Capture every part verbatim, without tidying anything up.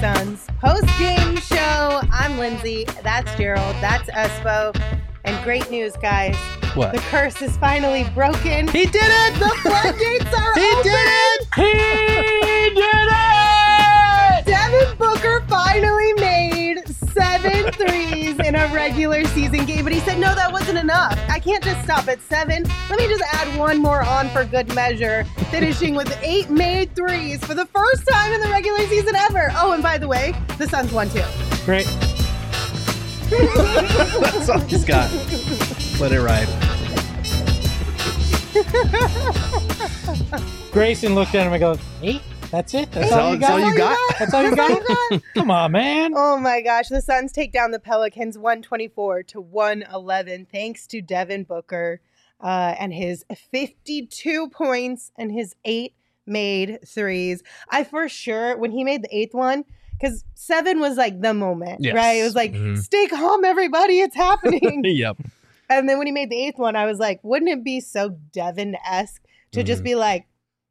Suns post-game show. I'm Lindsay. That's Gerald. That's Espo. And great news, guys. What? The curse is finally broken. He did it! The floodgates are He open! did it! He did it! Devin Booker finally made seven threes in a regular season game, but he said, no, that wasn't enough. I can't just stop at seven. Let me just add one more on for good measure, finishing with eight made threes for the first time in the regular season ever. Oh, and by the way, the Suns won too. Great. That's all he's got. Let it ride. Grayson looked at him and goes, eight? That's it? That's, That's all, all- you that's got? all you got? That's all you That's all got? you got? Come on, man. Oh my gosh, the Suns take down the Pelicans one twenty-four to one eleven thanks to Devin Booker uh, and his fifty-two points and his eight made threes. I for sure, when he made the eighth one, because seven was like the moment, Yes. right? It was like, Mhm. stay calm, everybody, it's happening. Yep. And then when he made the eighth one, I was like, wouldn't it be so Devin-esque to just Mhm. be like,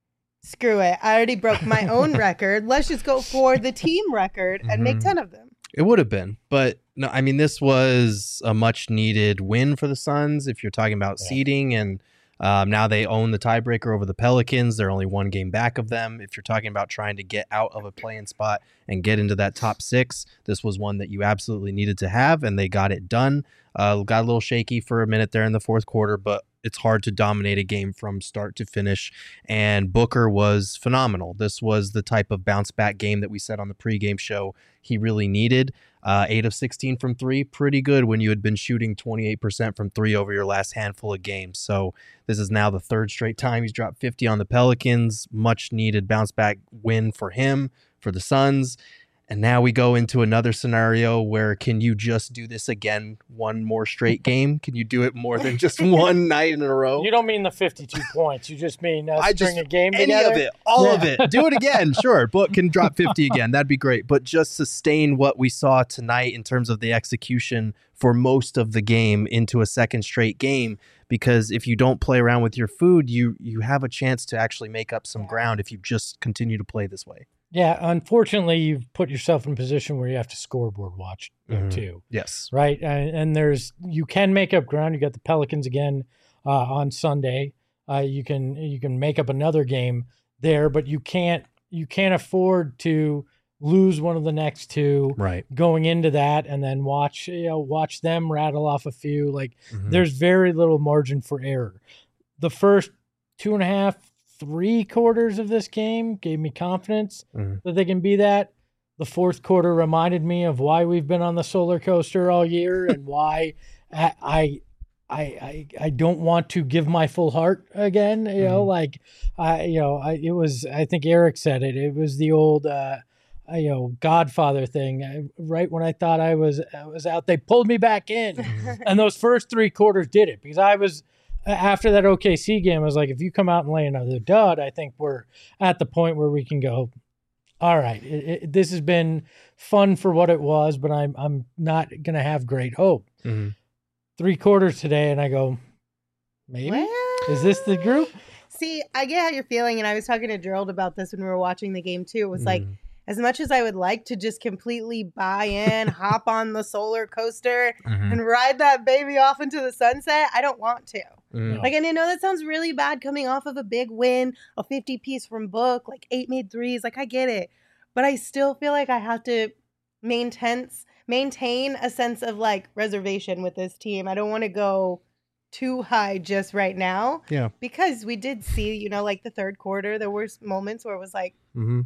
screw it, I already broke my own record. Let's just go for the team record and make Mhm. ten of them. It would have been, but no, I mean, this was a much needed win for the Suns. If you're talking about Yeah. seeding, and um, now they own the tiebreaker over the Pelicans. They're only one game back of them. If you're talking about trying to get out of a play-in spot and get into that top six, this was one that you absolutely needed to have, and they got it done. Uh, got a little shaky for a minute there in the fourth quarter, but it's hard to dominate a game from start to finish. And Booker was phenomenal. This was the type of bounce back game that we said on the pregame show he really needed. Uh, eight of sixteen from three, pretty good when you had been shooting twenty-eight percent from three over your last handful of games. So this is now the third straight time he's dropped fifty on the Pelicans. Much needed bounce back win for him, for the Suns. And now we go into another scenario where, can you just do this again one more straight game? Can you do it more than just one night in a row? You don't mean the fifty-two points. You just mean uh, I string just- a game Any together. of it, all Yeah. of it. Do it again. Sure. Book can drop fifty again. That'd be great. But just sustain what we saw tonight in terms of the execution for most of the game into a second straight game. Because if you don't play around with your food, you you have a chance to actually make up some ground if you just continue to play this way. Yeah, unfortunately, you've put yourself in a position where you have to scoreboard watch Mhm. too, Yes. right? And, and there's you can make up ground. You got the Pelicans again uh, on Sunday. Uh, you can you can make up another game there, but you can't you can't afford to lose one of the next two Right. going into that, and then watch you know watch them rattle off a few. Like Mhm. there's very little margin for error. The first two and a half, three quarters of this game gave me confidence Mhm. that they can be that. The fourth quarter reminded me of why we've been on the solar coaster all year and why I, I, I, I, I don't want to give my full heart again. You know, Mhm. like I, you know, I, it was. I think Eric said it. It was the old, uh, uh, you know, Godfather thing. I, right when I thought I was, I was out, they pulled me back in, and those first three quarters did it because I was. After that O K C game, I was like, if you come out and lay another dud, I think we're at the point where we can go, all right, it, it, this has been fun for what it was, but I'm I'm not going to have great hope. Mhm. Three quarters today, and I go, maybe? Well, Is this the group? See, I get how you're feeling, and I was talking to Gerald about this when we were watching the game too. It was like, Mhm. as much as I would like to just completely buy in, hop on the solar coaster, Mhm. and ride that baby off into the sunset, I don't want to. Mhm. Like, and I know that sounds really bad coming off of a big win, a fifty piece from Book, like eight made threes. Like, I get it. But I still feel like I have to maintain, maintain a sense of like reservation with this team. I don't want to go too high just right now. Yeah. Because we did see, you know, like the third quarter, there were moments where it was like, Mhm.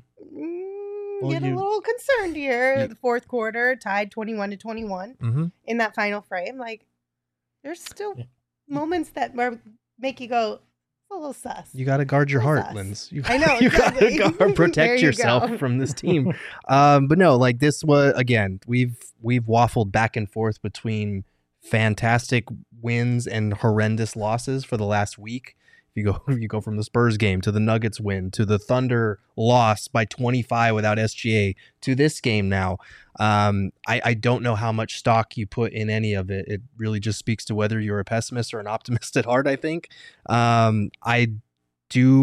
mm, Well, get you- a little concerned here. you- The fourth quarter tied twenty-one to twenty-one Mhm. in that final frame. Like, there's still Yeah. moments that were, make you go, it's a little sus. You got to guard your Who's heart, us? Linz. You, I know, you got to exactly. guard, There protect you yourself go. from this team. um, but no, like this was again. We've we've waffled back and forth between fantastic wins and horrendous losses for the last week. If you go, if you go from the Spurs game to the Nuggets win to the Thunder loss by twenty-five without S G A to this game now. Um, I, I don't know how much stock you put in any of it. It really just speaks to whether you're a pessimist or an optimist at heart, I think. Um, I do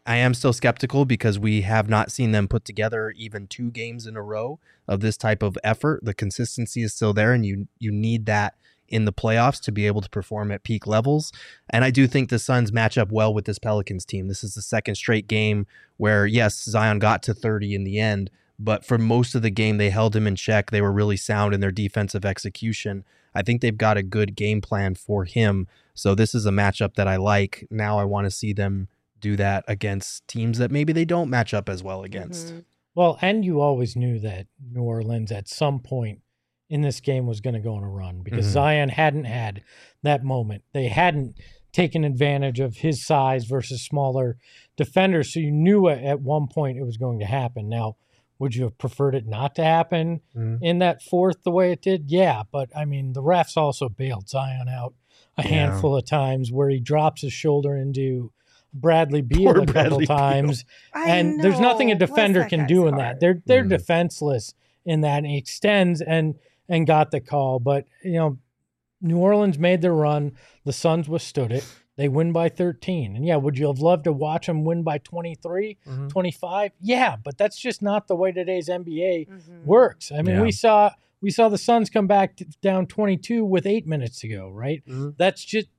I am still skeptical because we have not seen them put together even two games in a row of this type of effort. The consistency is still there, and you you need that in the playoffs to be able to perform at peak levels. And I do think the Suns match up well with this Pelicans team. This is the second straight game where, yes, Zion got to thirty in the end, but for most of the game, they held him in check. They were really sound in their defensive execution. I think they've got a good game plan for him. So this is a matchup that I like. Now I want to see them do that against teams that maybe they don't match up as well against. Mhm. Well, and you always knew that New Orleans at some point in this game was going to go on a run because Mhm. Zion hadn't had that moment. They hadn't taken advantage of his size versus smaller defenders. So you knew at- at one point it was going to happen. Now, would you have preferred it not to happen Mhm. in that fourth the way it did? Yeah, but I mean, the refs also bailed Zion out a Yeah. handful of times where he drops his shoulder into Bradley Beal Poor a couple Bradley Beal. times. I and there's nothing a know. Bless defender that can guy's do in heart. that. They're they're Mm. defenseless in that, and he extends and and got the call. But you know, New Orleans made their run. The Suns withstood it. They win by thirteen. And yeah, would you have loved to watch them win by twenty-three, Mhm. twenty-five? Yeah, but that's just not the way today's N B A Mhm. works. I mean, Yeah. we saw we saw the Suns come back t- down twenty-two with eight minutes to go, right? Mhm. That's just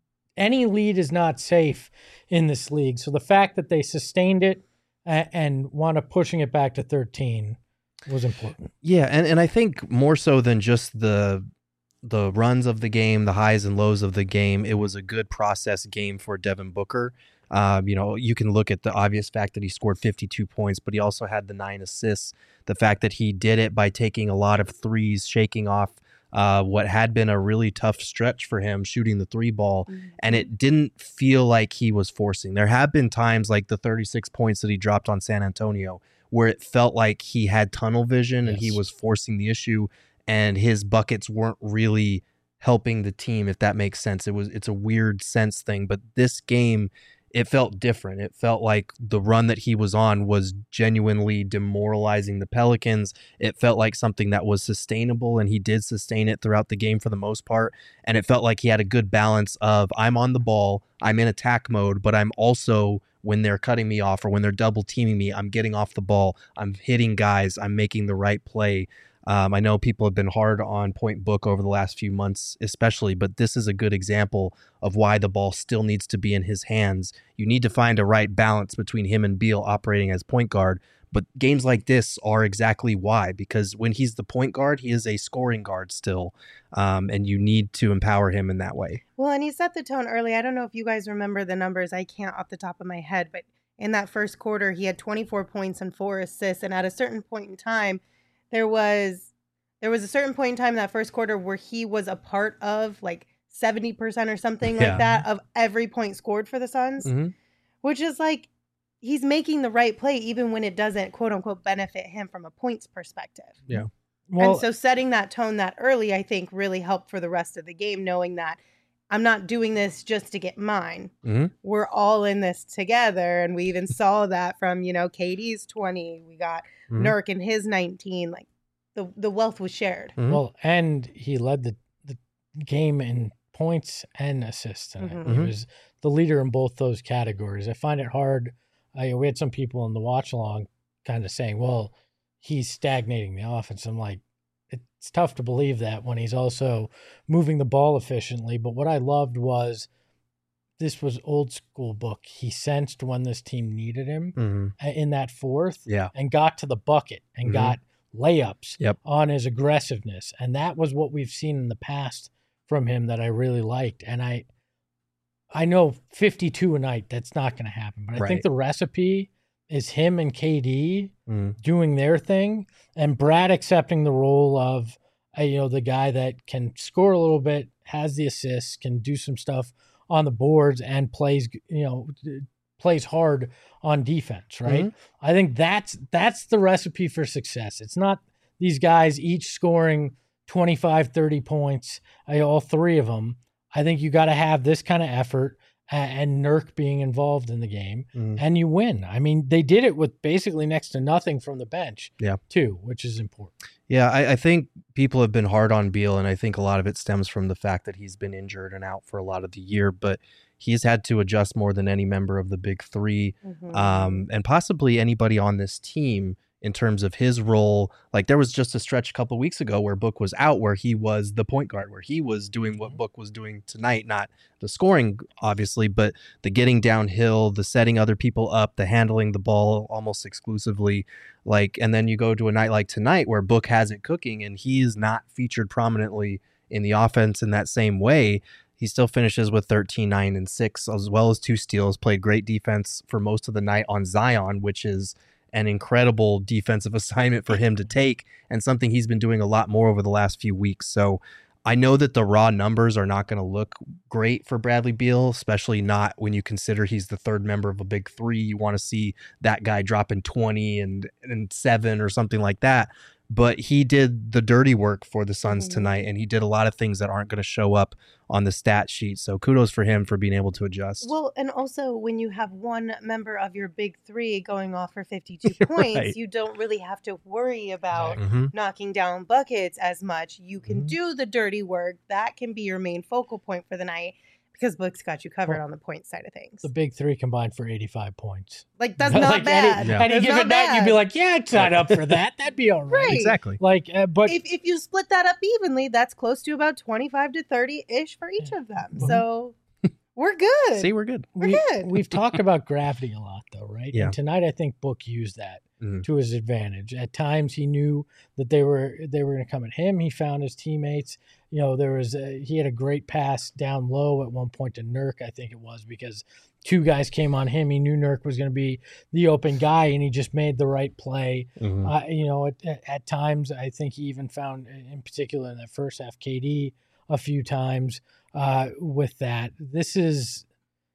any lead is not safe in this league. So the fact that they sustained it a- and wound up pushing it back to thirteen was important. Yeah, and, and I think more so than just the the runs of the game, the highs and lows of the game, it was a good process game for Devin Booker. Um, you know, you can look at the obvious fact that he scored fifty-two points, but he also had the nine assists. The fact that he did it by taking a lot of threes, shaking off uh, what had been a really tough stretch for him, shooting the three ball, Mhm. and it didn't feel like he was forcing. There have been times like the thirty-six points that he dropped on San Antonio where it felt like he had tunnel vision and he Yes. was forcing the issue, and his buckets weren't really helping the team, if that makes sense. It was it's a weird sense thing, but this game, it felt different. It felt like the run that he was on was genuinely demoralizing the Pelicans. It felt like something that was sustainable, and he did sustain it throughout the game for the most part. And it felt like he had a good balance of, I'm on the ball, I'm in attack mode, but I'm also, when they're cutting me off or when they're double teaming me, I'm getting off the ball, I'm hitting guys, I'm making the right play. Um, I know people have been hard on Point Book over the last few months, especially, but this is a good example of why the ball still needs to be in his hands. You need to find a right balance between him and Beal operating as point guard, but games like this are exactly why, because when he's the point guard, he is a scoring guard still, um, and you need to empower him in that way. Well, and he set the tone early. I don't know if you guys remember the numbers. I can't off the top of my head, but in that first quarter, he had twenty-four points and four assists. And at a certain point in time, there was there was a certain point in time in that first quarter where he was a part of like seventy percent or something Yeah. like that of every point scored for the Suns, Mm-hmm. which is like he's making the right play even when it doesn't quote unquote benefit him from a points perspective. Yeah. Well, And so setting that tone that early, I think, really helped for the rest of the game, knowing that I'm not doing this just to get mine. Mm-hmm. We're all in this together. And we even saw that from, you know, K D's twenty. We got Mhm. Nurk and his nineteen. Like the, the wealth was shared. Mhm. well, and he led the, the game in points and assists tonight. Mhm. He Mhm. was the leader in both those categories. I find it hard. I, we had some people in the watch along kind of saying, well, he's stagnating the offense. I'm like, it's tough to believe that when he's also moving the ball efficiently. But what I loved was this was old school Book. He sensed when this team needed him Mhm. uh, in that fourth Yeah. and got to the bucket and Mhm. got layups Yep. on his aggressiveness. And that was what we've seen in the past from him that I really liked. And I I know fifty-two a night, that's not going to happen. But I Right. think the recipe is him and K D Mhm. doing their thing and Brad accepting the role of, uh, you know, the guy that can score a little bit, has the assists, can do some stuff on the boards and plays, you know, plays hard on defense, right? Mm-hmm. I think that's that's the recipe for success. It's not these guys each scoring twenty-five, thirty points, uh, all three of them. I think you got to have this kind of effort uh, and Nurk being involved in the game, Mhm. and you win. I mean, they did it with basically next to nothing from the bench, Yeah. too, which is important. Yeah, I, I think people have been hard on Beal, and I think a lot of it stems from the fact that he's been injured and out for a lot of the year. But he's had to adjust more than any member of the big three, Mhm. um, and possibly anybody on this team in terms of his role. Like there was just a stretch a couple of weeks ago where Book was out, where he was the point guard, where he was doing what Book was doing tonight, not the scoring, obviously, but the getting downhill, the setting other people up, the handling the ball almost exclusively. Like, and then you go to a night like tonight where Book has it cooking and he's not featured prominently in the offense in that same way. He still finishes with thirteen, nine, and six, as well as two steals, played great defense for most of the night on Zion, which is an incredible defensive assignment for him to take and something he's been doing a lot more over the last few weeks. So I know that the raw numbers are not going to look great for Bradley Beal, especially not when you consider he's the third member of a big three. You want to see that guy dropping twenty and, and seven or something like that. But he did the dirty work for the Suns Mhm. tonight, and he did a lot of things that aren't going to show up on the stat sheet. So kudos for him for being able to adjust. Well, and also when you have one member of your big three going off for fifty-two points, Right. you don't really have to worry about Mhm. knocking down buckets as much. You can Mhm. do the dirty work. That can be your main focal point for the night because Book's got you covered Well, on the point side of things. The big three combined for eighty-five points. Like, that's Like, not any- bad. Yeah. Any That's given not night, you'd be bad. like, yeah, I'd sign up for that. That'd be all right. Right. Exactly. Like, uh, but if, if you split that up evenly, that's close to about twenty-five to thirty-ish for each of them. Mhm. So we're good. See, we're good. We're we, good. we've talked about gravity a lot, though, right? Yeah. And tonight, I think Book used that Mhm. to his advantage. At times, he knew that they were they were going to come at him. He found his teammates. You know, there was a, he had a great pass down low at one point to Nurk, I think it was, because two guys came on him. He knew Nurk was going to be the open guy, and he just made the right play. Mhm. Uh, you know, at, at, at times, I think he even found, in particular in that first half, K D a few times uh, with that. This is,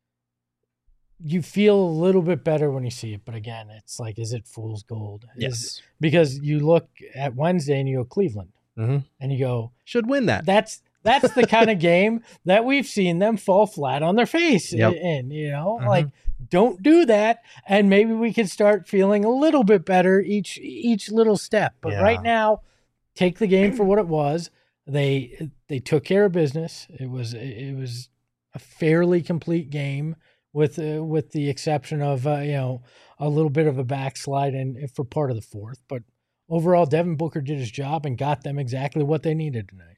you feel a little bit better when you see it. But again, it's like, is it fool's gold? Is- Yes. because you look at Wednesday and you go Cleveland Mhm. and you go, Should win that. that's that's the kind of game that we've seen them fall flat on their face Yep. in, you know, Mhm. like don't do that. And maybe we can start feeling a little bit better each, each little step. But Yeah. right now, take the game for what it was. They, they took care of business. It was, it was a fairly complete game with, uh, with the exception of, uh, you know, a little bit of a backslide and for part of the fourth, but overall Devin Booker did his job and got them exactly what they needed tonight.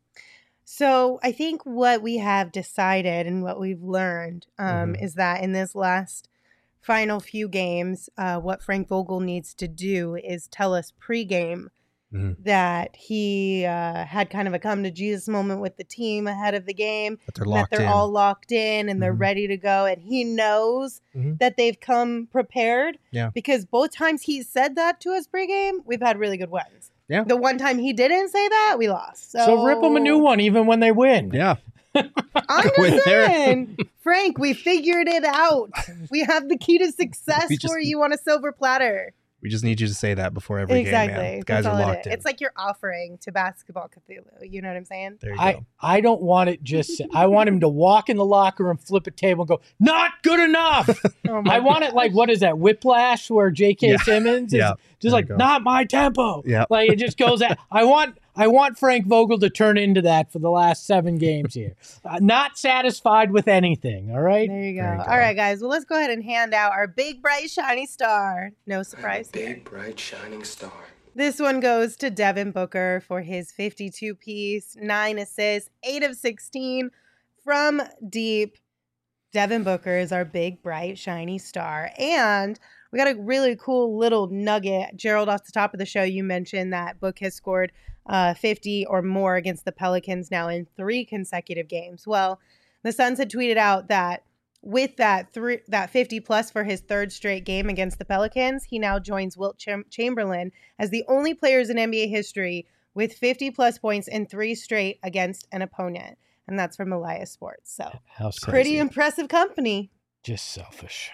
So I think what we have decided and what we've learned um, Mhm. is that in this last final few games, uh, what Frank Vogel needs to do is tell us pregame Mhm. that he uh, had kind of a come to Jesus moment with the team ahead of the game, But they're that locked they're in. all locked in and they're Mhm. ready to go. And he knows Mhm. that they've come prepared. Yeah. Because both times he said that to us pregame, we've had really good wins. Yeah. The one time he didn't say that, we lost. So, So, rip them a new one even when they win. Yeah. I'm Go in just there. saying, Frank, we figured it out. We have the key to success We just- for you on a silver platter. We just need you to say that before every Exactly. game, man. The guys That's are all it locked is. in. It's like you're offering to Basketball Cthulhu. You know what I'm saying? There you I, go. I don't want it just, I want him to walk in the locker room, flip a table and go, not good enough. Oh my I want it like, what is that, Whiplash, where J K Yeah. Simmons is Yeah. just There like, you go. not my tempo. Yeah. Like it just goes at, I want, I want Frank Vogel to turn into that for the last seven games here. Uh, not satisfied with anything. All right. There you go. There you go. All right, guys. Well, let's go ahead and hand out our big, bright, shiny star. No surprise here. Big, bright, shining star. This one goes to Devin Booker for his fifty-two piece, nine assists, eight of sixteen from deep. Devin Booker is our big, bright, shiny star. And we got a really cool little nugget. Gerald, off the top of the show, you mentioned that Book has scored uh, fifty or more against the Pelicans now in three consecutive games. Well, the Suns had tweeted out that with that three, that fifty plus for his third straight game against the Pelicans, he now joins Wilt Cham- Chamberlain as the only players in N B A history with fifty plus points in three straight against an opponent. And that's from Elias Sports. So How sad. pretty impressive company. Just selfish.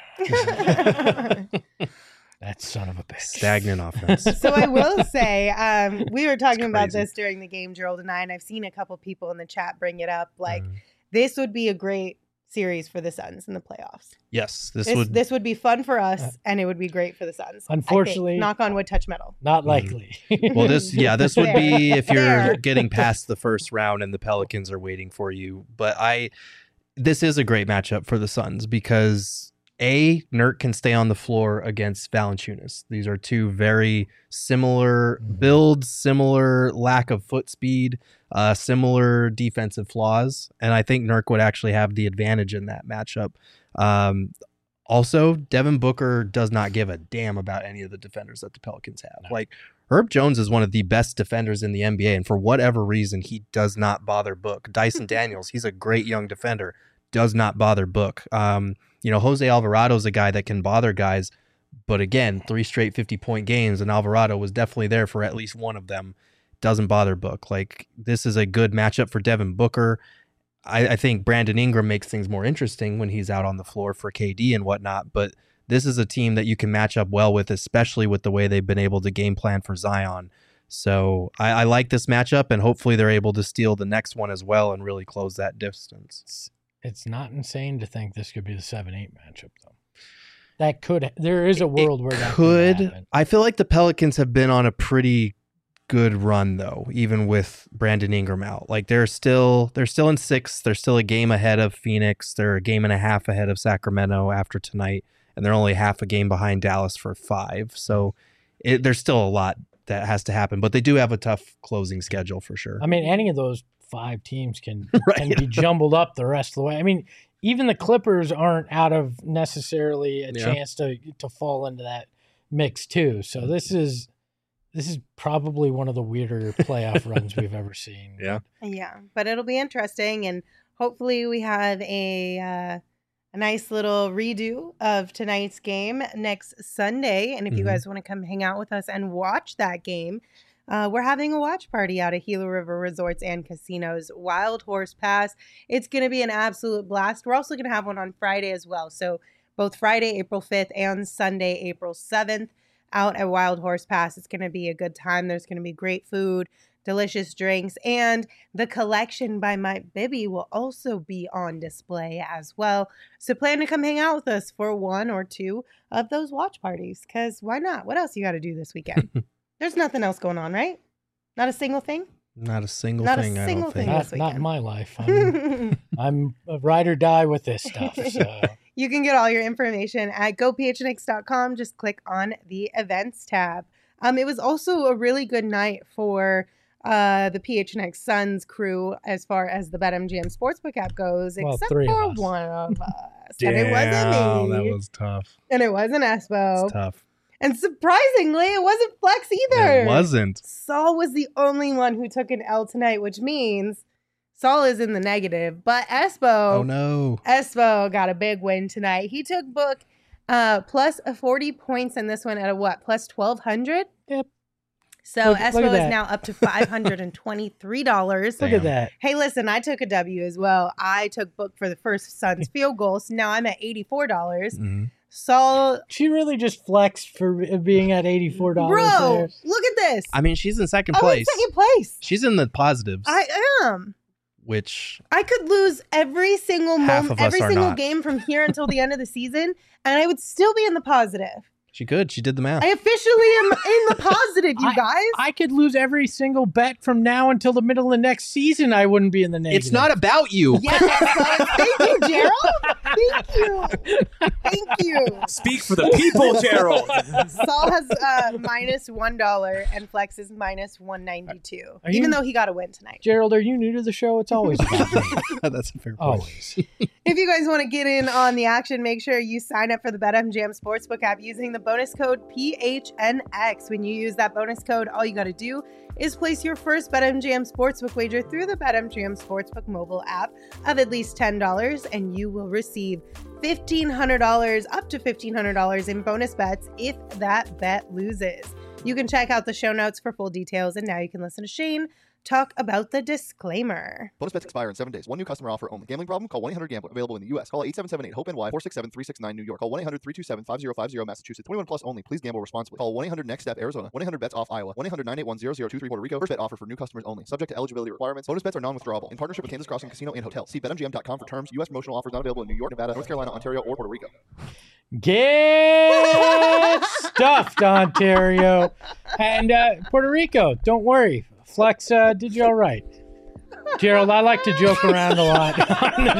That son of a bitch. Stagnant offense. So I will say, um, we were talking about crazy. this during the game, Gerald and I, and I've seen a couple people in the chat bring it up. Like, Mhm. this would be a great series for the Suns in the playoffs. Yes, this, This, would. this would be fun for us, Uh, and it would be great for the Suns. I think. Unfortunately- knock on wood, touch metal. Not Mhm. likely. Well, this yeah, this would be if you're There. getting past the first round and the Pelicans are waiting for you. But I, this is a great matchup for the Suns because A, Nurk can stay on the floor against Valanciunas. These are two very similar builds, similar lack of foot speed, uh, similar defensive flaws. And I think Nurk would actually have the advantage in that matchup. Um, also, Devin Booker does not give a damn about any of the defenders that the Pelicans have. No. Like, Herb Jones is one of the best defenders in the N B A, and for whatever reason, he does not bother Book. Dyson Daniels, he's a great young defender, does not bother Book. Um, you know, Jose Alvarado is a guy that can bother guys, but again, three straight fifty-point games, and Alvarado was definitely there for at least one of them. Doesn't bother Book. Like, this is a good matchup for Devin Booker. I, I think Brandon Ingram makes things more interesting when he's out on the floor for K D and whatnot, but this is a team that you can match up well with, especially with the way they've been able to game plan for Zion. So I, I like this matchup, and hopefully they're able to steal the next one as well and really close that distance. It's, it's not insane to think this could be the seven eight matchup, though. That could, there is a world It where that could. could happen. I feel like the Pelicans have been on a pretty good run, though, even with Brandon Ingram out. Like, they're still they're still in sixth. They're still a game ahead of Phoenix. They're a game and a half ahead of Sacramento after tonight, and they're only half a game behind Dallas for five. So it, there's still a lot that has to happen, but they do have a tough closing schedule for sure. I mean, any of those five teams can, Right. can be jumbled up the rest of the way. I mean, even the Clippers aren't out of necessarily a Yeah. chance to to fall into that mix too. So this is this is probably one of the weirder playoff runs we've ever seen. Yeah. Yeah, but it'll be interesting, and hopefully we have a uh, a nice little redo of tonight's game next Sunday. And if you Mhm. guys want to come hang out with us and watch that game, uh, we're having a watch party out at Gila River Resorts and Casinos, Wild Horse Pass. It's going to be an absolute blast. We're also going to have one on Friday as well. So both Friday, April fifth, and Sunday, April seventh. Out at Wild Horse Pass. It's going to be a good time. There's going to be great food, delicious drinks, and the collection by Mike Bibby will also be on display as well. So plan to come hang out with us for one or two of those watch parties, because why not? What else you got to do this weekend? There's nothing else going on, right? Not a single thing? Not a single Not a thing, I single don't think. thing. Not, this not weekend. in my life. I'm, I'm a ride or die with this stuff. So You can get all your information at go p h n x dot com. Just click on the events tab. Um, it was also a really good night for uh, the P H N X Suns crew as far as the BetMGM Sportsbook app goes, Well, except three of for us. one of us. And it wasn't me. that was tough. and it wasn't Espo. It's tough. And surprisingly, it wasn't Flex either. It wasn't. Saul was the only one who took an L tonight, which means Saul is in the negative. But Espo, Oh, no. Espo got a big win tonight. He took Book uh, plus forty points in this one at a what? Plus twelve hundred? Yep. So Look- look Espo at is that. now up to five hundred twenty-three dollars. look Damn. at that. Hey, listen, I took a W as well. I took Book for the first Suns field goal. So now I'm at eighty-four dollars. Mhm. Saul, She really just flexed for being at eighty-four dollars. bro, there. look at this. I mean, she's in second I'm in place. second place. She's in the positives, I am. which I could lose every single Half moment, of us every are single not. game from here until the end of the season, and I would still be in the positive. she could. She did the math. I officially am in the positive, you guys. I could lose every single bet from now until the middle of next season. I wouldn't be in the negative. It's not about you. Yes, so thank you, Gerald. Thank you. Thank you. Speak for the people, Gerald. Saul has uh, minus one dollar and Flex is minus one ninety two. Are Even you- though he got a win tonight. Gerald, are you new to the show? It's always about me. That's a fair point. Always. If you guys want to get in on the action, make sure you sign up for the BetMGM Sportsbook app using the bonus code P H N X. When you use that bonus code, all you got to do is place your first BetMGM Sportsbook wager through the BetMGM Sportsbook mobile app of at least ten dollars, and you will receive fifteen hundred dollars, up to fifteen hundred dollars in bonus bets if that bet loses. You can check out the show notes for full details, and now you can listen to Shane talk about the disclaimer. Bonus bets expire in seven days. One new customer offer only. Gambling problem? Call one eight hundred gambler. Available in the U S. Call eight seven seven eight hope N Y four six seven three six nine New York. Call one eight hundred three two seven five zero five zero Massachusetts. twenty-one plus only. Please gamble responsibly. Call one eight hundred next step Arizona. one eight hundred bets off Iowa. one eight hundred nine eight one zero zero two three Puerto Rico. First bet offer for new customers only. Subject to eligibility requirements. Bonus bets are non-withdrawable. In partnership with Kansas Crossing Casino and Hotel. See bet M G M dot com for terms. U S promotional offers not available in New York, Nevada, North Carolina, Ontario, or Puerto Rico. Get stuffed, Ontario. And uh, Puerto Rico, don't worry. Flex uh, did you all right. Gerald, I like to joke around a lot on the,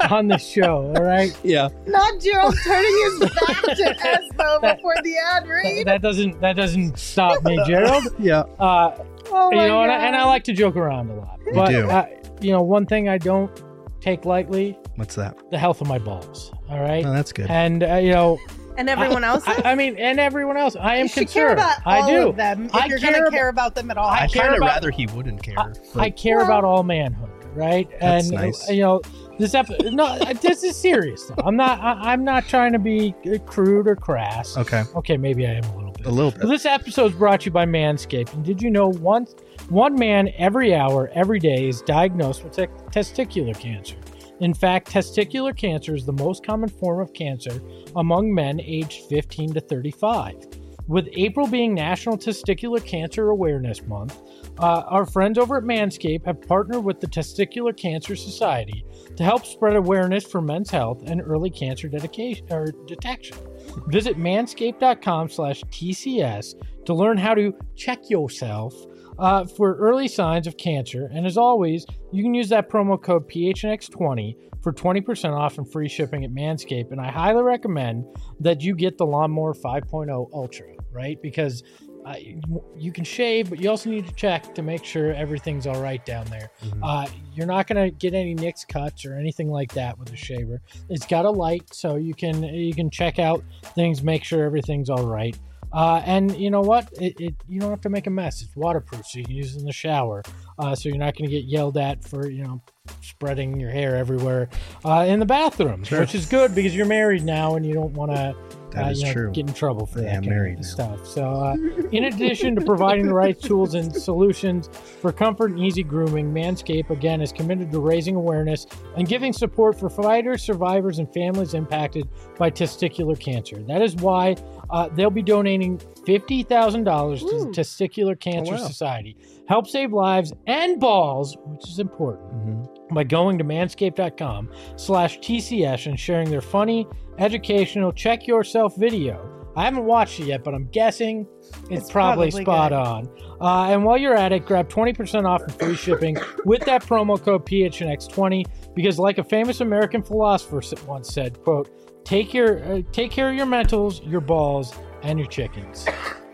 on the show. All right. Yeah. Not Gerald turning his back to Espo before the ad That, read. that doesn't that doesn't stop me, Gerald. Yeah. Uh, Oh you my know, and I, God. and I like to joke around a lot. But do. Uh, you know, one thing I don't take lightly: What's that? the health of my balls. All right. Oh, that's good. And uh, you know, And everyone else. I, I mean, and everyone else. I am you should care concerned. about I all do. of them if I you're care going to about- care about them at all. I I care kind of about- rather he wouldn't care. I, but- I care Well- about all manhood, right? That's and nice. you know, this episode. No, this is serious. Though. I'm not. I, I'm not trying to be crude or crass. okay. Okay, maybe I am a little bit. A little Well, bit. this episode is brought to you by Manscaped. And did you know one, one man every hour, every day is diagnosed with te- testicular cancer? In fact, testicular cancer is the most common form of cancer among men aged fifteen to thirty-five. With April being National Testicular Cancer Awareness Month, uh, our friends over at Manscaped have partnered with the Testicular Cancer Society to help spread awareness for men's health and early cancer dedication or detection. Visit manscaped.com slash TCS to learn how to check yourself uh, for early signs of cancer. And as always, you can use that promo code P H N X twenty for twenty percent off and free shipping at Manscaped. And I highly recommend that you get the Lawnmower five point oh Ultra, right? Because uh, you can shave, but you also need to check to make sure everything's all right down there. Mhm. Uh, you're not going to get any nicks, cuts, or anything like that with the shaver. It's got a light, so you can you can check out things, make sure everything's all right. Uh, and you know what? It, it you don't have to make a mess. It's waterproof, so you can use it in the shower. Uh, so you're not going to get yelled at for you know spreading your hair everywhere uh, in the bathroom, Sure. which is good because you're married now and you don't want to. That uh, is you know, true. Get in trouble for I that am kind married of now. stuff. So, uh, in addition to providing the right tools and solutions for comfort and easy grooming, Manscaped again is committed to raising awareness and giving support for fighters, survivors, and families impacted by testicular cancer. That is why uh, they'll be donating fifty thousand dollars to the Ooh. Testicular Cancer Oh, wow. Society. Help save lives and balls, which is important, Mhm. by going to manscaped.com slash TCS and sharing their funny, educational, check yourself video. I haven't watched it yet, but I'm guessing it's, It's probably, probably spot good. on. Uh, and while you're at it, grab twenty percent off and free shipping with that promo code P H N X twenty, because like a famous American philosopher s- once said, quote, take your uh, take care of your mentals, your balls, and your chickens.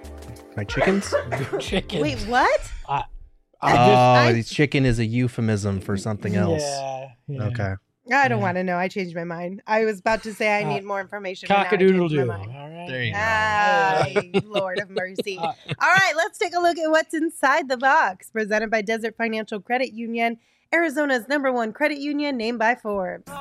My chickens? Your chickens. Wait, what? I Oh, I- the chicken is a euphemism for something else. Yeah, yeah. Okay. I don't Yeah. want to know. I changed my mind. I was about to say I Uh, need more information. but now I Cock-a-doodle changed doo. my All mind. right. There you go. Ah, Lord of mercy. Uh, All right, let's take a look at what's inside the box. Presented by Desert Financial Credit Union, Arizona's number one credit union, named by Forbes.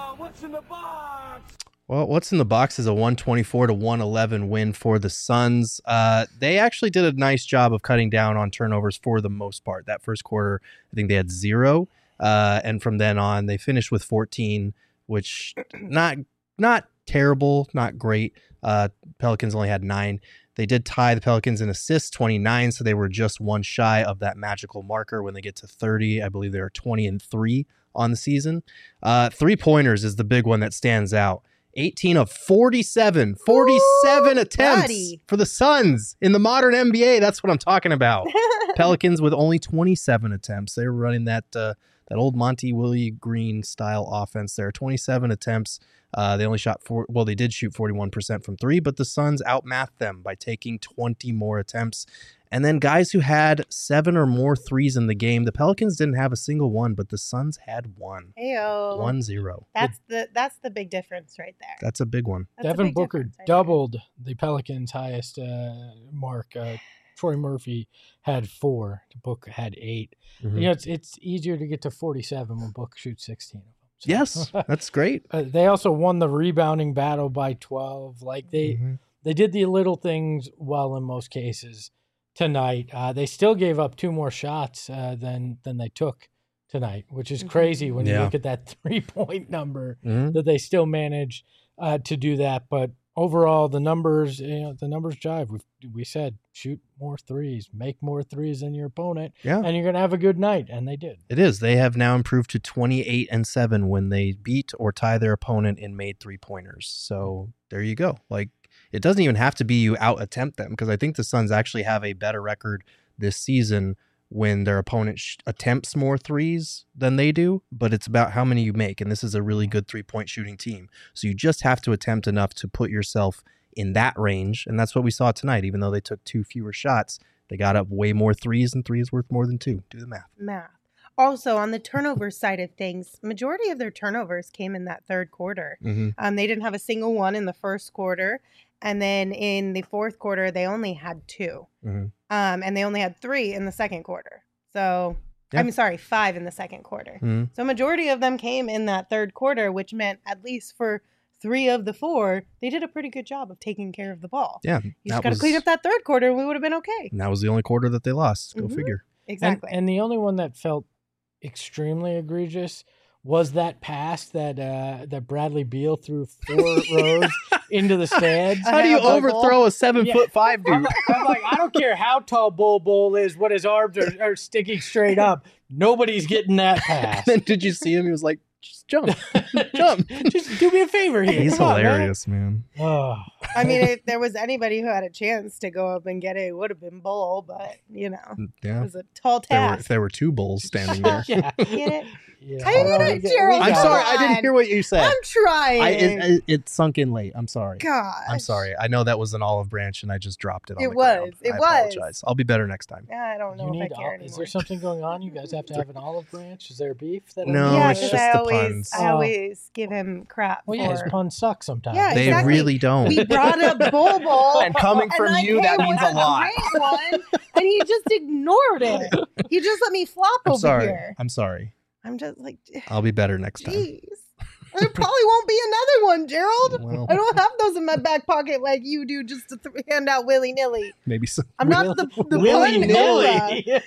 Well, what's in the box is a one twenty-four to one eleven win for the Suns. Uh, they actually did a nice job of cutting down on turnovers for the most part. That first quarter, I think they had zero, uh, and from then on, they finished with fourteen, which not not terrible, not great. Uh, Pelicans only had nine. They did tie the Pelicans in assists, twenty-nine, so they were just one shy of that magical marker. When they get to thirty, I believe they are twenty and three on the season. Uh, three pointers is the big one that stands out. eighteen of forty-seven, forty-seven Ooh, attempts buddy. for the Suns in the modern N B A. That's what I'm talking about. Pelicans with only twenty-seven attempts. They were running that uh, that old Monty Willie Green style offense there. twenty-seven attempts. Uh, they only shot four. Well, they did shoot forty-one percent from three, but the Suns outmatched them by taking twenty more attempts. And then guys who had seven or more threes in the game. The Pelicans didn't have a single one, but the Suns had one. Heyo. One zero. That's the that's the big difference right there. That's a big one. That's a Devin big Booker difference right there. doubled the Pelicans' highest uh, mark. Uh, Troy Murphy had four. Booker had eight. Mhm. You know, it's it's easier to get to forty-seven when Booker shoots sixteen of them. So- Yes, that's great. Uh, they also won the rebounding battle by twelve. Like they Mhm. they did the little things well in most cases tonight. Uh, they still gave up two more shots uh, than than they took tonight, which is crazy when you Yeah. look at that three point number Mhm. that they still managed uh, to do that. But overall, the numbers, you know, the numbers jive. We we said shoot more threes, make more threes than your opponent, Yeah. and you're gonna have a good night, and they did. It is. They have now improved to twenty-eight and seven when they beat or tie their opponent in made three pointers. So there you go. Like it doesn't even have to be you out attempt them, because I think the Suns actually have a better record this season when their opponent sh- attempts more threes than they do, but it's about how many you make. And this is a really good three-point shooting team. So you just have to attempt enough to put yourself in that range. And that's what we saw tonight. Even though they took two fewer shots, they got up way more threes, and three is worth more than two. Do the math. Math. Also, on the turnover side of things, majority of their turnovers came in that third quarter. Mm-hmm. Um, they didn't have a single one in the first quarter. And then in the fourth quarter, they only had two. Mm-hmm. Um, and they only had three in the second quarter. So, Yeah. I'm sorry, five in the second quarter. Mm-hmm. So majority of them came in that third quarter, which meant at least for three of the four, they did a pretty good job of taking care of the ball. Yeah. You that just got to was- clean up that third quarter and we would have been okay. And that was the only quarter that they lost. Go Mhm. figure. Exactly. And, and the only one that felt extremely egregious was that pass that uh, that Bradley Beal threw four rows into the stands. How do you overthrow a seven Yeah. foot five I'm like, I'm like, I don't care how tall Bol Bol is, what his arms are, are sticking straight up. Nobody's getting that pass. then did you see him? He was like, just jump. Jump. Just do me a favor here. He's Come on, man. hilarious, man. Oh. I mean, if there was anybody who had a chance to go up and get it, it would have been Bull, but, you know, it Yeah. was a tall There were, task. there were two bulls standing there. Yeah. Get it? Yeah. How you gonna- We got- Gerald, we I'm got sorry. it. I didn't hear what you said. I'm trying. I, it, it, it sunk in late. I'm sorry. Gosh. I'm sorry. I know that was an olive branch, and I just dropped it on It the ground. was. It I was. apologize. I'll be better next time. I don't know You if need I care ol- anymore. is there something going on? You guys have to have an olive branch? Is there beef? That I No, need? yeah, it's because just I the always, puns. I Oh. always give him crap. Well, yeah, his for- puns suck sometimes. Yeah, They exactly. really don't. We brought up Bol Bol. And coming from like, you, hey, that means a what's lot. Great one, and he just ignored it. He just let me flop I'm over sorry. here. I'm sorry. I'm just like, I'll be better next time. jeez. There probably won't be another one, Gerald. Well, I don't have those in my back pocket like you do, just to th- hand out willy nilly. maybe some. I'm not the the Willy pun era. nilly.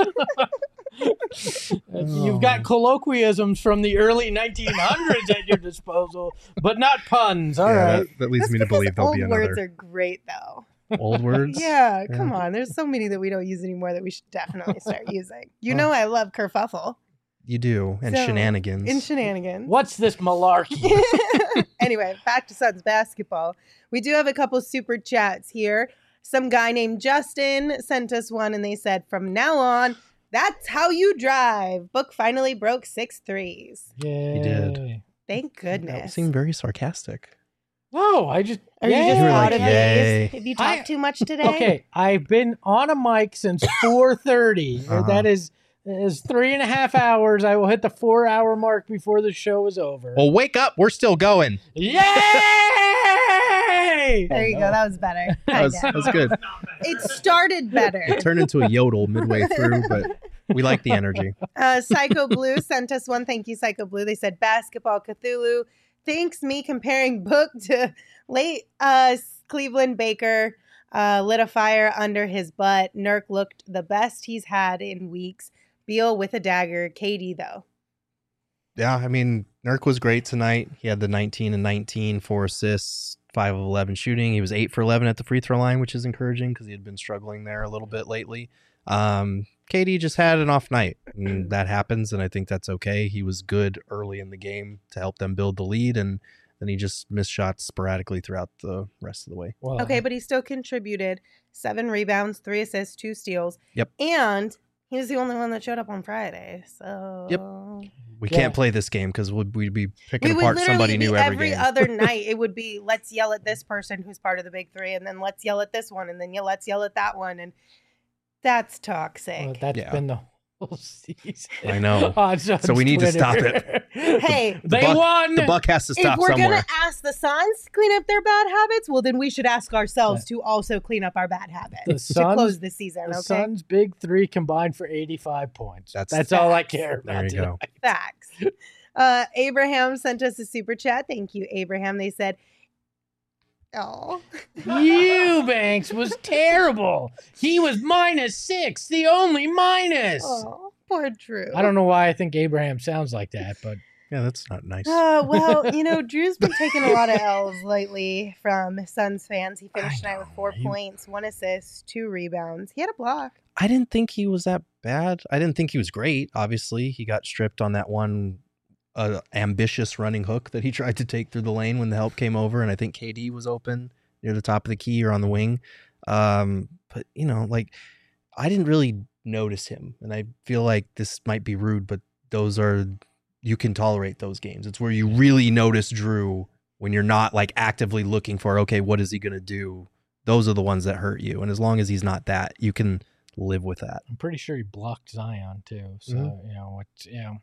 You've got colloquialisms from the early nineteen hundreds at your disposal, but not puns. All Yeah, right. that, that leads That's me to because believe there'll old be words another. are great, though. Old words? Yeah, Yeah. come on. There's so many that we don't use anymore that we should definitely start using. You Oh. know, I love kerfuffle You do. And So, shenanigans. in shenanigans. What's this malarkey? Anyway, back to Suns basketball. We do have a couple super chats here. Some guy named Justin sent us one, and they said, "From now on, that's how you drive." Book finally broke six threes. Yay. did. Thank That goodness. seemed very sarcastic. No, I just. Are you Yay. just You were out like, of yay. it? Have you I- talked too much today? Okay, I've been on a mic since four thirty. Uh-huh. That is is three and a half hours. I will hit the four hour mark before the show is over. Well, wake up. We're still going. Yay! There you go. That was better. That was, Kinda. that was good. It started better. It turned into a yodel midway through, but we like the energy. Uh, Psycho Blue sent us one. Thank you, Psycho Blue. They said Basketball Cthulhu thanks me comparing Book to late uh, Cleveland Baker. Uh, lit a fire under his butt. Nurk looked the best he's had in weeks. Beal with a dagger. K D though. Yeah, I mean, Nurk was great tonight. He had the nineteen and nineteen, four assists, five of eleven shooting. He was eight for eleven at the free throw line, which is encouraging because he had been struggling there a little bit lately. Um, K D just had an off night, and that happens, and I think that's okay. He was good early in the game to help them build the lead, and then he just missed shots sporadically throughout the rest of the way. Well, Okay, but he still contributed seven rebounds, three assists, two steals. Yep. And he was the only one that showed up on Friday. So Yep. We Yeah. can't play this game because we'd, we'd be picking We would apart literally somebody be new every, every game. other night. It would be let's yell at this person who's part of the big three, and then let's yell at this one, and then yeah, let's yell at that one, and that's toxic. well, that's Yeah. been the whole season. I know. On Suns So we need to Twitter. stop it. Hey, they buck- won. The buck has to if stop we're somewhere. gonna ask the Suns to clean up their bad habits, well, then we should ask ourselves to also clean up our bad habits The to Suns- close the season. The Okay, Suns' big three combined for eighty-five points. That's- That's, all I Facts. care There about. you go. tonight. facts. Uh, Abraham sent us a super chat. Thank you, Abraham. They said, "Oh, Eubanks was terrible. He was minus six, the only minus. oh, poor Drew." I don't know why I think Abraham sounds like that, but Yeah, that's not nice. Uh, well, you know, Drew's been taking a lot of L's lately from Suns fans. He finished I tonight with know. four He- points, one assist, two rebounds. He had a block. I didn't think he was that bad. I didn't think he was great. Obviously, he got stripped on that one uh, ambitious running hook that he tried to take through the lane when the help came over, and I think K D was open near the top of the key or on the wing. Um, but you know, like I didn't really notice him. And I feel like this might be rude, but those are, you can tolerate those games. It's where you really notice Drew when you're not like actively looking for, okay, what is he going to do? Those are the ones that hurt you. And as long as he's not that, you can live with that. I'm pretty sure he blocked Zion too. So, Mhm. you know, it's, you know,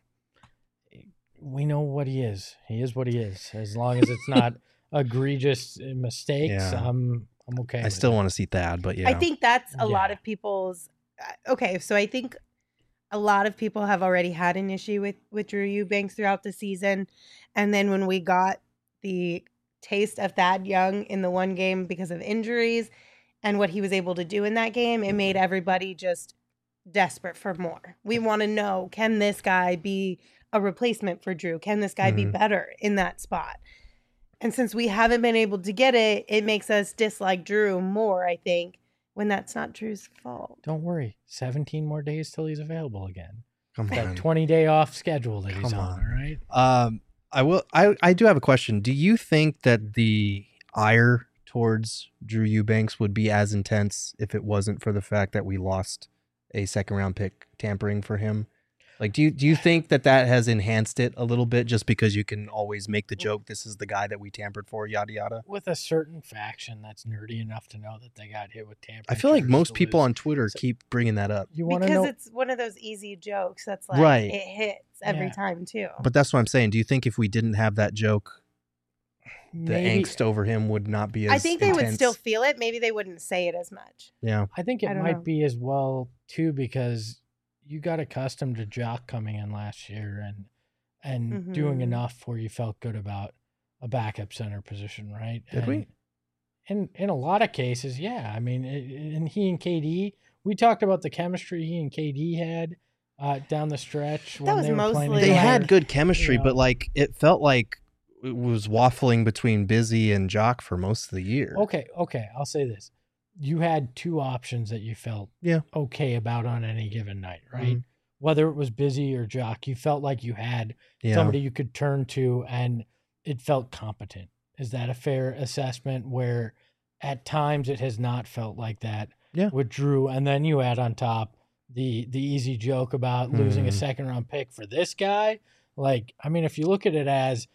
we know what he is. He is what he is. As long as it's not egregious mistakes, Yeah. I'm I'm okay. I with still it. want to see Thad, but yeah. I think that's a lot Yeah. of people's. uh, Okay, so I think a lot of people have already had an issue with with Drew Eubanks throughout the season, and then when we got the taste of Thad Young in the one game because of injuries and what he was able to do in that game, it made everybody just desperate for more. We want to know, can this guy be a replacement for Drew? Can this guy be Mhm. better in that spot? And since we haven't been able to get it, it makes us dislike Drew more, I think, when that's not Drew's fault. Don't worry. seventeen more days till he's available again. Come That on. twenty day off schedule that he's Come on, on. all right? Um, I will. I I do have a question. Do you think that the ire towards Drew Eubanks would be as intense if it wasn't for the fact that we lost a second round pick tampering for him? Like, do you do you think that that has enhanced it a little bit just because you can always make the joke, this is the guy that we tampered for, yada yada? With a certain faction that's nerdy enough to know that they got hit with tampering. I feel like charges most to people lose. on Twitter So- keep bringing that up. You want to Because know? it's one of those easy jokes that's like, Right. it hits every Yeah. time, too. But that's what I'm saying. Do you think if we didn't have that joke, the maybe, angst over him would not be as I think they would intense? still feel it. Maybe they wouldn't say it as much. Yeah. I think it I don't might know. be as well too because you got accustomed to Jock coming in last year and and doing Mhm. enough where you felt good about a backup center position, right? Did we? And in in a lot of cases, yeah. I mean, it, and he and K D, we talked about the chemistry he and K D had uh, down the stretch when was they were playing mostly They together. had good chemistry, you but know. like it felt like it was waffling between Busy and Jock for most of the year. Okay, okay. I'll say this: you had two options that you felt Yeah. okay about on any given night, right? Mhm. Whether it was Busy or Jock, you felt like you had Yeah. somebody you could turn to, and it felt competent. Is that a fair assessment? Where at times it has not felt like that Yeah. with Drew, and then you add on top the the easy joke about losing a Mhm. second round pick for this guy. Like, I mean, if you look at it as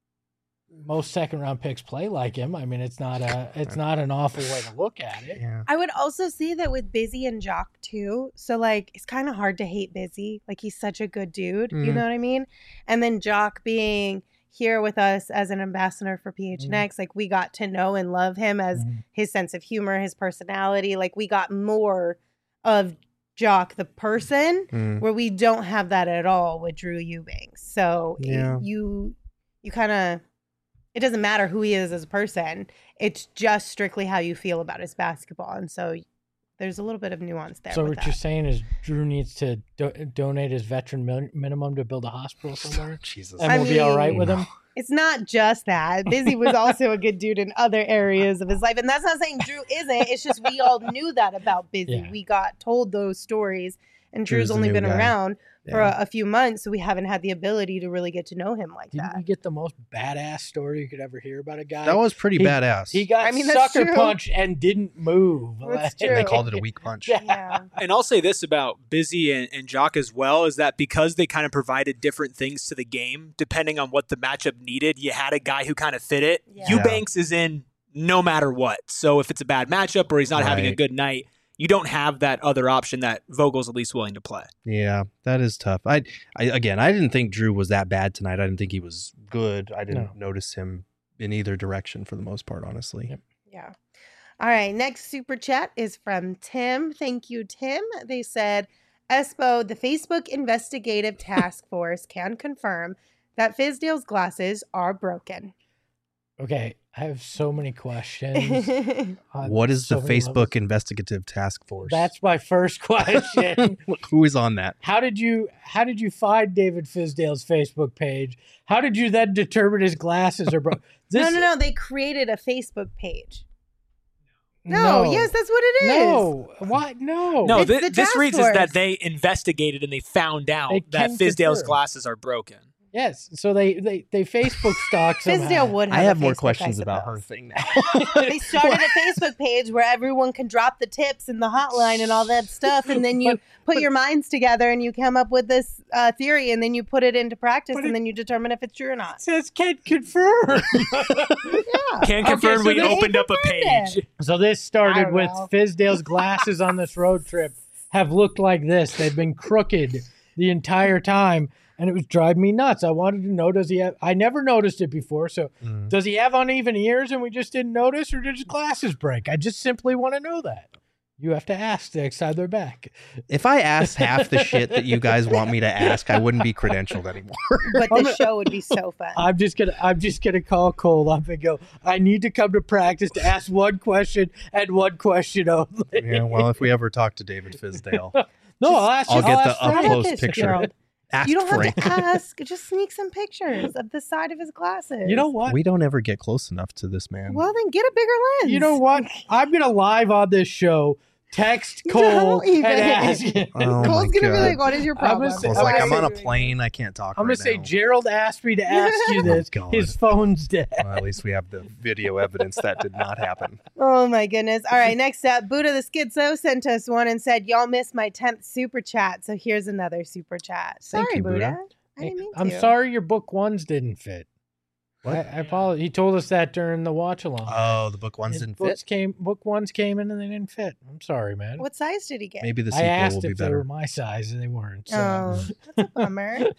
most second round picks play like him, I mean, it's not a it's not an awful way to look at it. Yeah. I would also see that with Busy and Jock, too. So, like, it's kind of hard to hate Busy. Like, he's such a good dude. You Mhm. know what I mean? And then Jock being here with us as an ambassador for P H N X, like, we got to know and love him as Mhm. his sense of humor, his personality. Like, we got more of Jock the person, Mm. where we don't have that at all with Drew Eubanks. So it- Yeah. you you kind of, it doesn't matter who he is as a person. It's just strictly how you feel about his basketball. And so there's a little bit of nuance there. So with what that. you're saying is Drew needs to do- donate his veteran min- minimum to build a hospital somewhere, Jesus. and I we'll be all right mean- with him. It's not just that. Busy was also a good dude in other areas of his life. And that's not saying Drew isn't. It's just we all knew that about Busy. Yeah. We got told those stories. And Drew's Drew's the only new been guy. around for Yeah. a, a few months, so we haven't had the ability to really get to know him like Didn't that. we get the most badass story you could ever hear about a guy? That was pretty He- badass. he got I mean, that's sucker true. punched and didn't move. That's Like- true. They called it a weak punch. Yeah. Yeah. And I'll say this about Busy and, and Jock as well, is that because they kind of provided different things to the game, depending on what the matchup needed, you had a guy who kind of fit it. Yeah. Eubanks is in no matter what. So if it's a bad matchup or he's not having a Right. good night, you don't have that other option that Vogel's at least willing to play. Yeah, that is tough. I, I again, I didn't think Drew was that bad tonight. I didn't think he was good. I didn't No. notice him in either direction for the most part, honestly. Yep. Yeah. All right. Next super chat is from Tim. Thank you, Tim. They said, Espo, the Facebook Investigative Task Force can confirm that Fizdale's glasses are broken. Okay, I have so many questions. on What is so the many Facebook levels. Investigative Task Force? That's my first question. Who is on that? How did you how did you find David Fizdale's Facebook page? How did you then determine his glasses are broken? no, no, no. They created a Facebook page. No, yes, that's what it is. No, what? No, No, It's thi- the this task reads is force. that they investigated and they found out They that can Fizdale's confirm. glasses are broken. Yes. So they they, they Facebook stalk somehow. Fizdale would have I have a more Facebook, questions I about her suppose. thing now. They started a Facebook page where everyone can drop the tips and the hotline and all that stuff, and then you But- put but- your minds together and you come up with this uh, theory, and then you put it into practice, But and it- then you determine if it's true or not. Says can't confirm. Yeah. Can Okay, confirm so we they opened up a confirmed page. So this I started don't with know. Fizdale's glasses on this road trip have looked like this. They've been crooked the entire time, and it was driving me nuts. I wanted to know, does he have, I never noticed it before, so Mm. does he have uneven ears and we just didn't notice, or did his glasses break? I just simply want to know that. You have to ask next time they're back. If I asked half the shit that you guys want me to ask, I wouldn't be credentialed anymore. But I'm the a- show would be so fun. I'm just gonna I'm just gonna call Cole up and go, I need to come to practice to ask one question and one question only. Yeah, well, if we ever talk to David Fizdale, No, I'll ask I'll you. get I'll the ask How Frank. about up-close this, picture. Gerald? ask You don't Frank. have to ask. Just sneak some pictures of the side of his glasses. You know what? We don't ever get close enough to this man. Well, then get a bigger lens. You know what? I'm gonna live on this show text Cole Don't and even. ask him. Oh Cole's my gonna be God. like, "What is your I'm gonna problem?" say- I was I'm like, gonna I'm on a say- plane. I can't talk I'm gonna right say now. Gerald asked me to ask you Oh, this. God. His phone's dead. Well, at least we have the video evidence that did not happen. Oh my goodness. All right, next up, Buddha the Schizo sent us one and said, "Y'all missed my tenth super chat." So here's another super chat. Sorry, Thank you, Buddha. Buddha. I didn't mean I'm to. sorry your book ones didn't fit. What? I, I apologize. He told us that during the watch along. Oh, the book ones His didn't books fit. came book ones came in and they didn't fit. I'm sorry, man. What size did he get? Maybe the I sequel asked will be if they were better. my size and they weren't. So Oh, that's a bummer.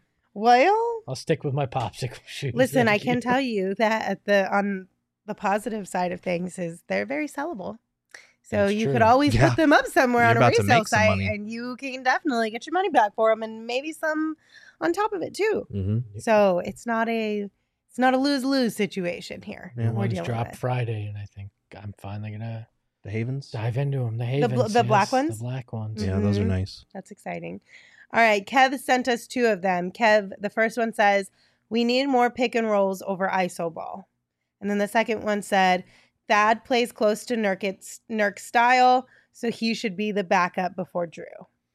Well, I'll stick with my popsicle shoes. listen, I Thank can you. tell you that at the on the positive side of things is they're very sellable. So That's you true. could always Yeah. put them up somewhere You're on a about to resale make some site, money. and you can definitely get your money back for them, and maybe some on top of it too. hmm So it's not a it's not a lose lose situation here. Yeah. We're One's dealing dropped with. Friday, and I think I'm finally gonna The Havens. dive into them. The bl- Havens, the black yes, ones? the black ones. Yeah, those are Mhm. nice. That's exciting. All right, Kev sent us two of them. Kev, the first one says, "We need more pick and rolls over iso ball," and then the second one said, "Thad plays close to Nurk's Nurk style, so he should be the backup before Drew."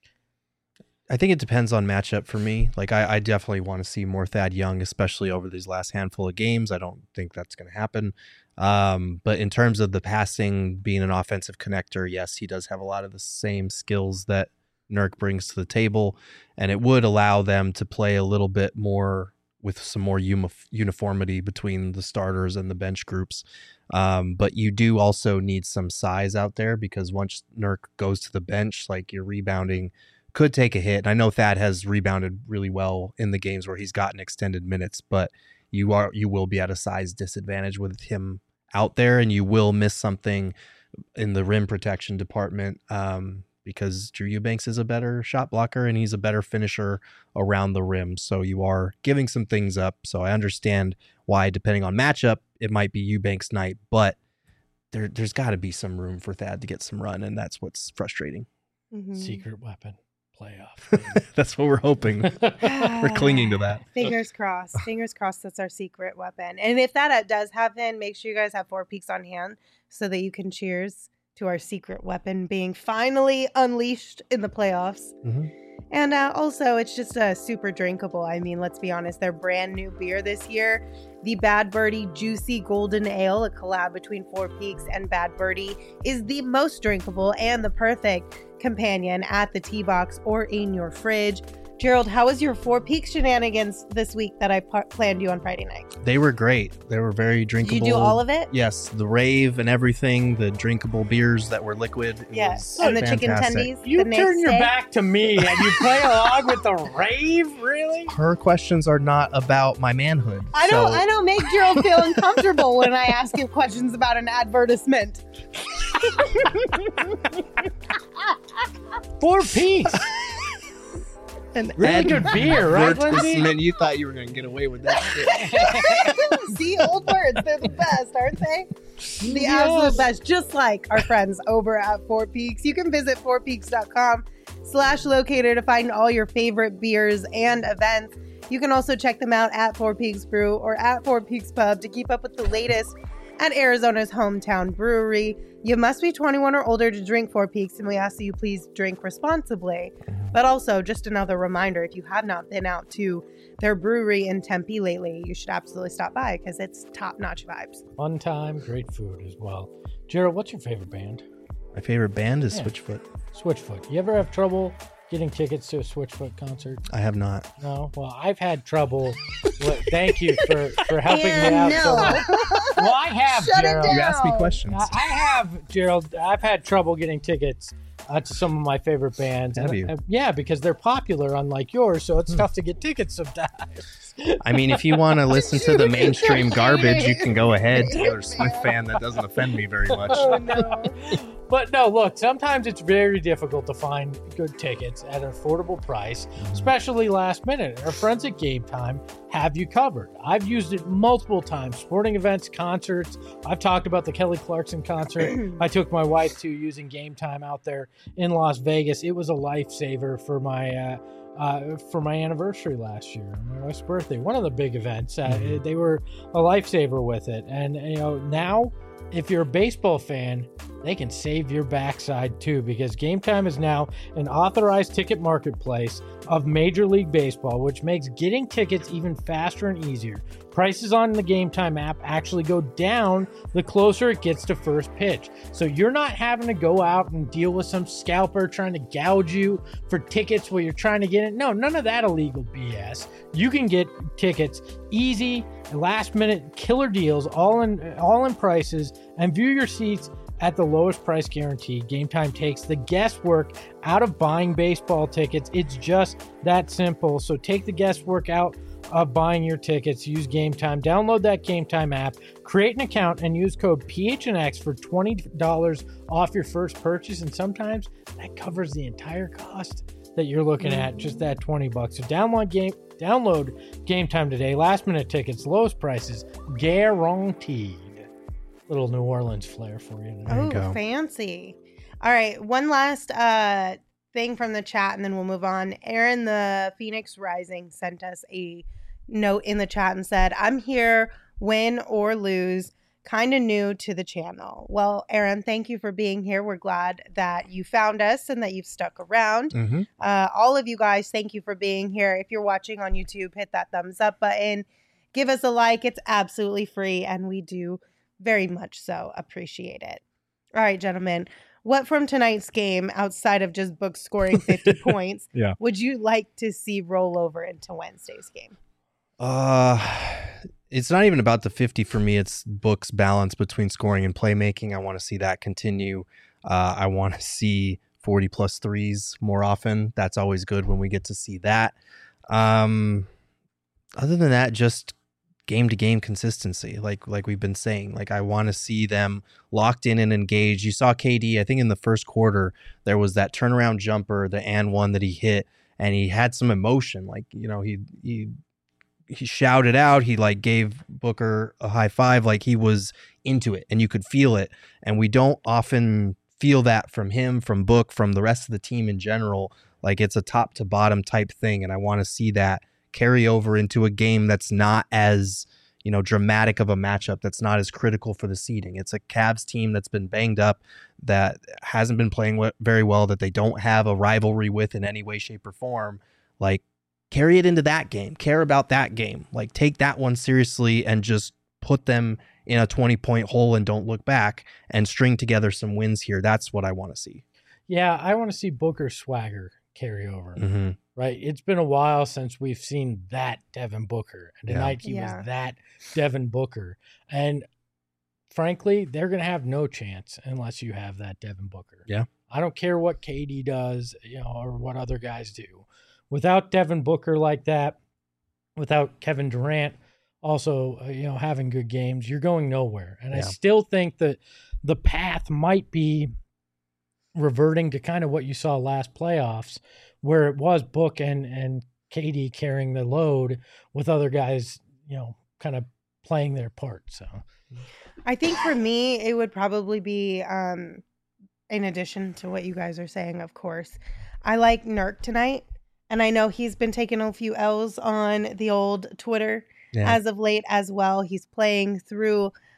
I think it depends on matchup for me. Like, I, I definitely want to see more Thad Young, especially over these last handful of games. I don't think that's going to happen. Um, but in terms of the passing, being an offensive connector, yes, he does have a lot of the same skills that Nurk brings to the table, and it would allow them to play a little bit more with some more uni- uniformity between the starters and the bench groups. Um, but you do also need some size out there, because once Nurk goes to the bench, like, your rebounding could take a hit. And I know Thad has rebounded really well in the games where he's gotten extended minutes, but you are you will be at a size disadvantage with him out there, and you will miss something in the rim protection department, um, because Drew Eubanks is a better shot blocker and he's a better finisher around the rim. So you are giving some things up. So I understand why, depending on matchup, it might be Eubanks night, but there, there's got to be some room for Thad to get some run, and that's what's frustrating. Mhm. Secret weapon playoff. That's what we're hoping. We're clinging to that. Fingers crossed. Fingers crossed that's our secret weapon. And if that does happen, make sure you guys have four peaks on hand so that you can cheers to our secret weapon being finally unleashed in the playoffs. Mhm. And uh, also, it's just uh, super drinkable. I mean, let's be honest, their brand new beer this year, the Bad Birdie Juicy Golden Ale, a collab between Four Peaks and Bad Birdie, is the most drinkable and the perfect companion at the tea box or in your fridge. Gerald, how was your Four Peaks shenanigans this week that I p- planned you on Friday night? They were great. They were very Did drinkable. you do all of it? Yes, the rave and everything, the drinkable beers that were liquid. It Yes. was And the chicken fantastic. tendies? You the turn your steak? back to me and you play along with the rave, really? Her questions are not about my manhood. I don't. so- I don't make Gerald feel uncomfortable when I ask him questions about an advertisement. Four piece. And Really good beer, right, Lindsay? Advertisement, you thought you were going to get away with that shit. see, old words, they're the best, aren't they? The Yes. absolute best. Just like our friends over at Four Peaks. You can visit four peaks dot com slash locator to find all your favorite beers and events. You can also check them out at Four Peaks Brew or at Four Peaks Pub to keep up with the latest at Arizona's hometown brewery. You must be twenty-one or older to drink Four Peaks, and we ask that you please drink responsibly. But also, just another reminder, if you have not been out to their brewery in Tempe lately, you should absolutely stop by because it's top-notch vibes. Fun time, great food as well. Gerald, what's your favorite band? My favorite band is Yeah. Switchfoot. Switchfoot. You ever have trouble getting tickets to a Switchfoot concert? I have not. No? Well, I've had trouble. Well, thank you for, for helping And me out. no. So much. Well, I have, Shut it Gerald. down. You asked me questions. I I have, Gerald. I've had trouble getting tickets uh, to some of my favorite bands. Have And- you? and- yeah, because they're popular, unlike yours, so it's tough to get tickets sometimes. I mean, if you want to listen to the mainstream garbage, you can go ahead. Taylor Swift fan that doesn't offend me very much. Oh, no. But no, look, sometimes it's very difficult to find good tickets at an affordable price, especially last minute. Our friends at Game Time have you covered. I've used it multiple times, sporting events, concerts. I've talked about the Kelly Clarkson concert I took my wife to using Game Time out there in Las Vegas. It was a lifesaver for my uh, uh, for my anniversary last year, my wife's birthday. One of the big events. Uh, Mhm. They were a lifesaver with it. And, you know, now if you're a baseball fan, they can save your backside too, because Game Time is now an authorized ticket marketplace of Major League Baseball, which makes getting tickets even faster and easier. Prices on the Game Time app actually go down the closer it gets to first pitch. So you're not having to go out and deal with some scalper trying to gouge you for tickets while you're trying to get it. No, none of that illegal B S. You can get tickets easy, last minute killer deals, all in all in prices, and view your seats at the lowest price guarantee. Game Time takes the guesswork out of buying baseball tickets. It's just that simple. So take the guesswork out of buying your tickets. Use Game Time. Download that Game Time app, create an account, and use code P H N X for twenty dollars off your first purchase. And sometimes that covers the entire cost that you're looking at, just that twenty bucks. So download game download Game Time today. Last minute tickets, lowest prices, guaranteed. Little New Orleans flair for you today. There you Oh, go. fancy. All right, one last uh thing from the chat and then we'll move on. Aaron the Phoenix Rising sent us a note in the chat and said, "I'm here, win or lose, kind of new to the channel." Well, Aaron, thank you for being here. We're glad that you found us and that you've stuck around. Mm-hmm. Uh, all of you guys, thank you for being here. If you're watching on YouTube, hit that thumbs up button. Give us a like. It's absolutely free, and we do very much so appreciate it. All right, gentlemen. What from tonight's game, outside of just Book scoring fifty points, Yeah. would you like to see roll over into Wednesday's game? Uh, it's not even about the fifty for me. It's Book's balance between scoring and playmaking. I want to see that continue. Uh, I want to see forty plus threes more often. That's always good when we get to see that. Um, other than that, just game to game consistency, like like we've been saying. Like I want to see them locked in and engaged. You saw K D, I think in the first quarter, there was that turnaround jumper, the and one that he hit, and he had some emotion. Like, you know, he he he shouted out, he like gave Booker a high five, like he was into it and you could feel it. And we don't often feel that from him, from Book, from the rest of the team in general. Like it's a top to bottom type thing, and I want to see that carry over into a game that's not as, you know, dramatic of a matchup, that's not as critical for the seeding. It's a Cavs team that's been banged up, that hasn't been playing w- very well, that they don't have a rivalry with in any way, shape, or form. Like, carry it into that game. Care about that game. Like, take that one seriously and just put them in a twenty-point hole and don't look back and string together some wins here. That's what I want to see. Yeah, I want to see Booker swagger carry over. Mm-hmm. Right? It's been a while since we've seen that Devin Booker. And Yeah. tonight he Yeah. was that Devin Booker. And frankly, they're going to have no chance unless you have that Devin Booker. Yeah. I don't care what K D does, you know, or what other guys do. Without Devin Booker like that, without Kevin Durant also, uh, you know, having good games, you're going nowhere. And I Yeah. still think that the path might be reverting to kind of what you saw last playoffs, where it was Book and, and K D carrying the load with other guys, you know, kind of playing their part. So I think for me, it would probably be, um, in addition to what you guys are saying, of course, I like Nurk tonight. And I know he's been taking a few L's on the old Twitter Yeah. as of late as well. He's playing through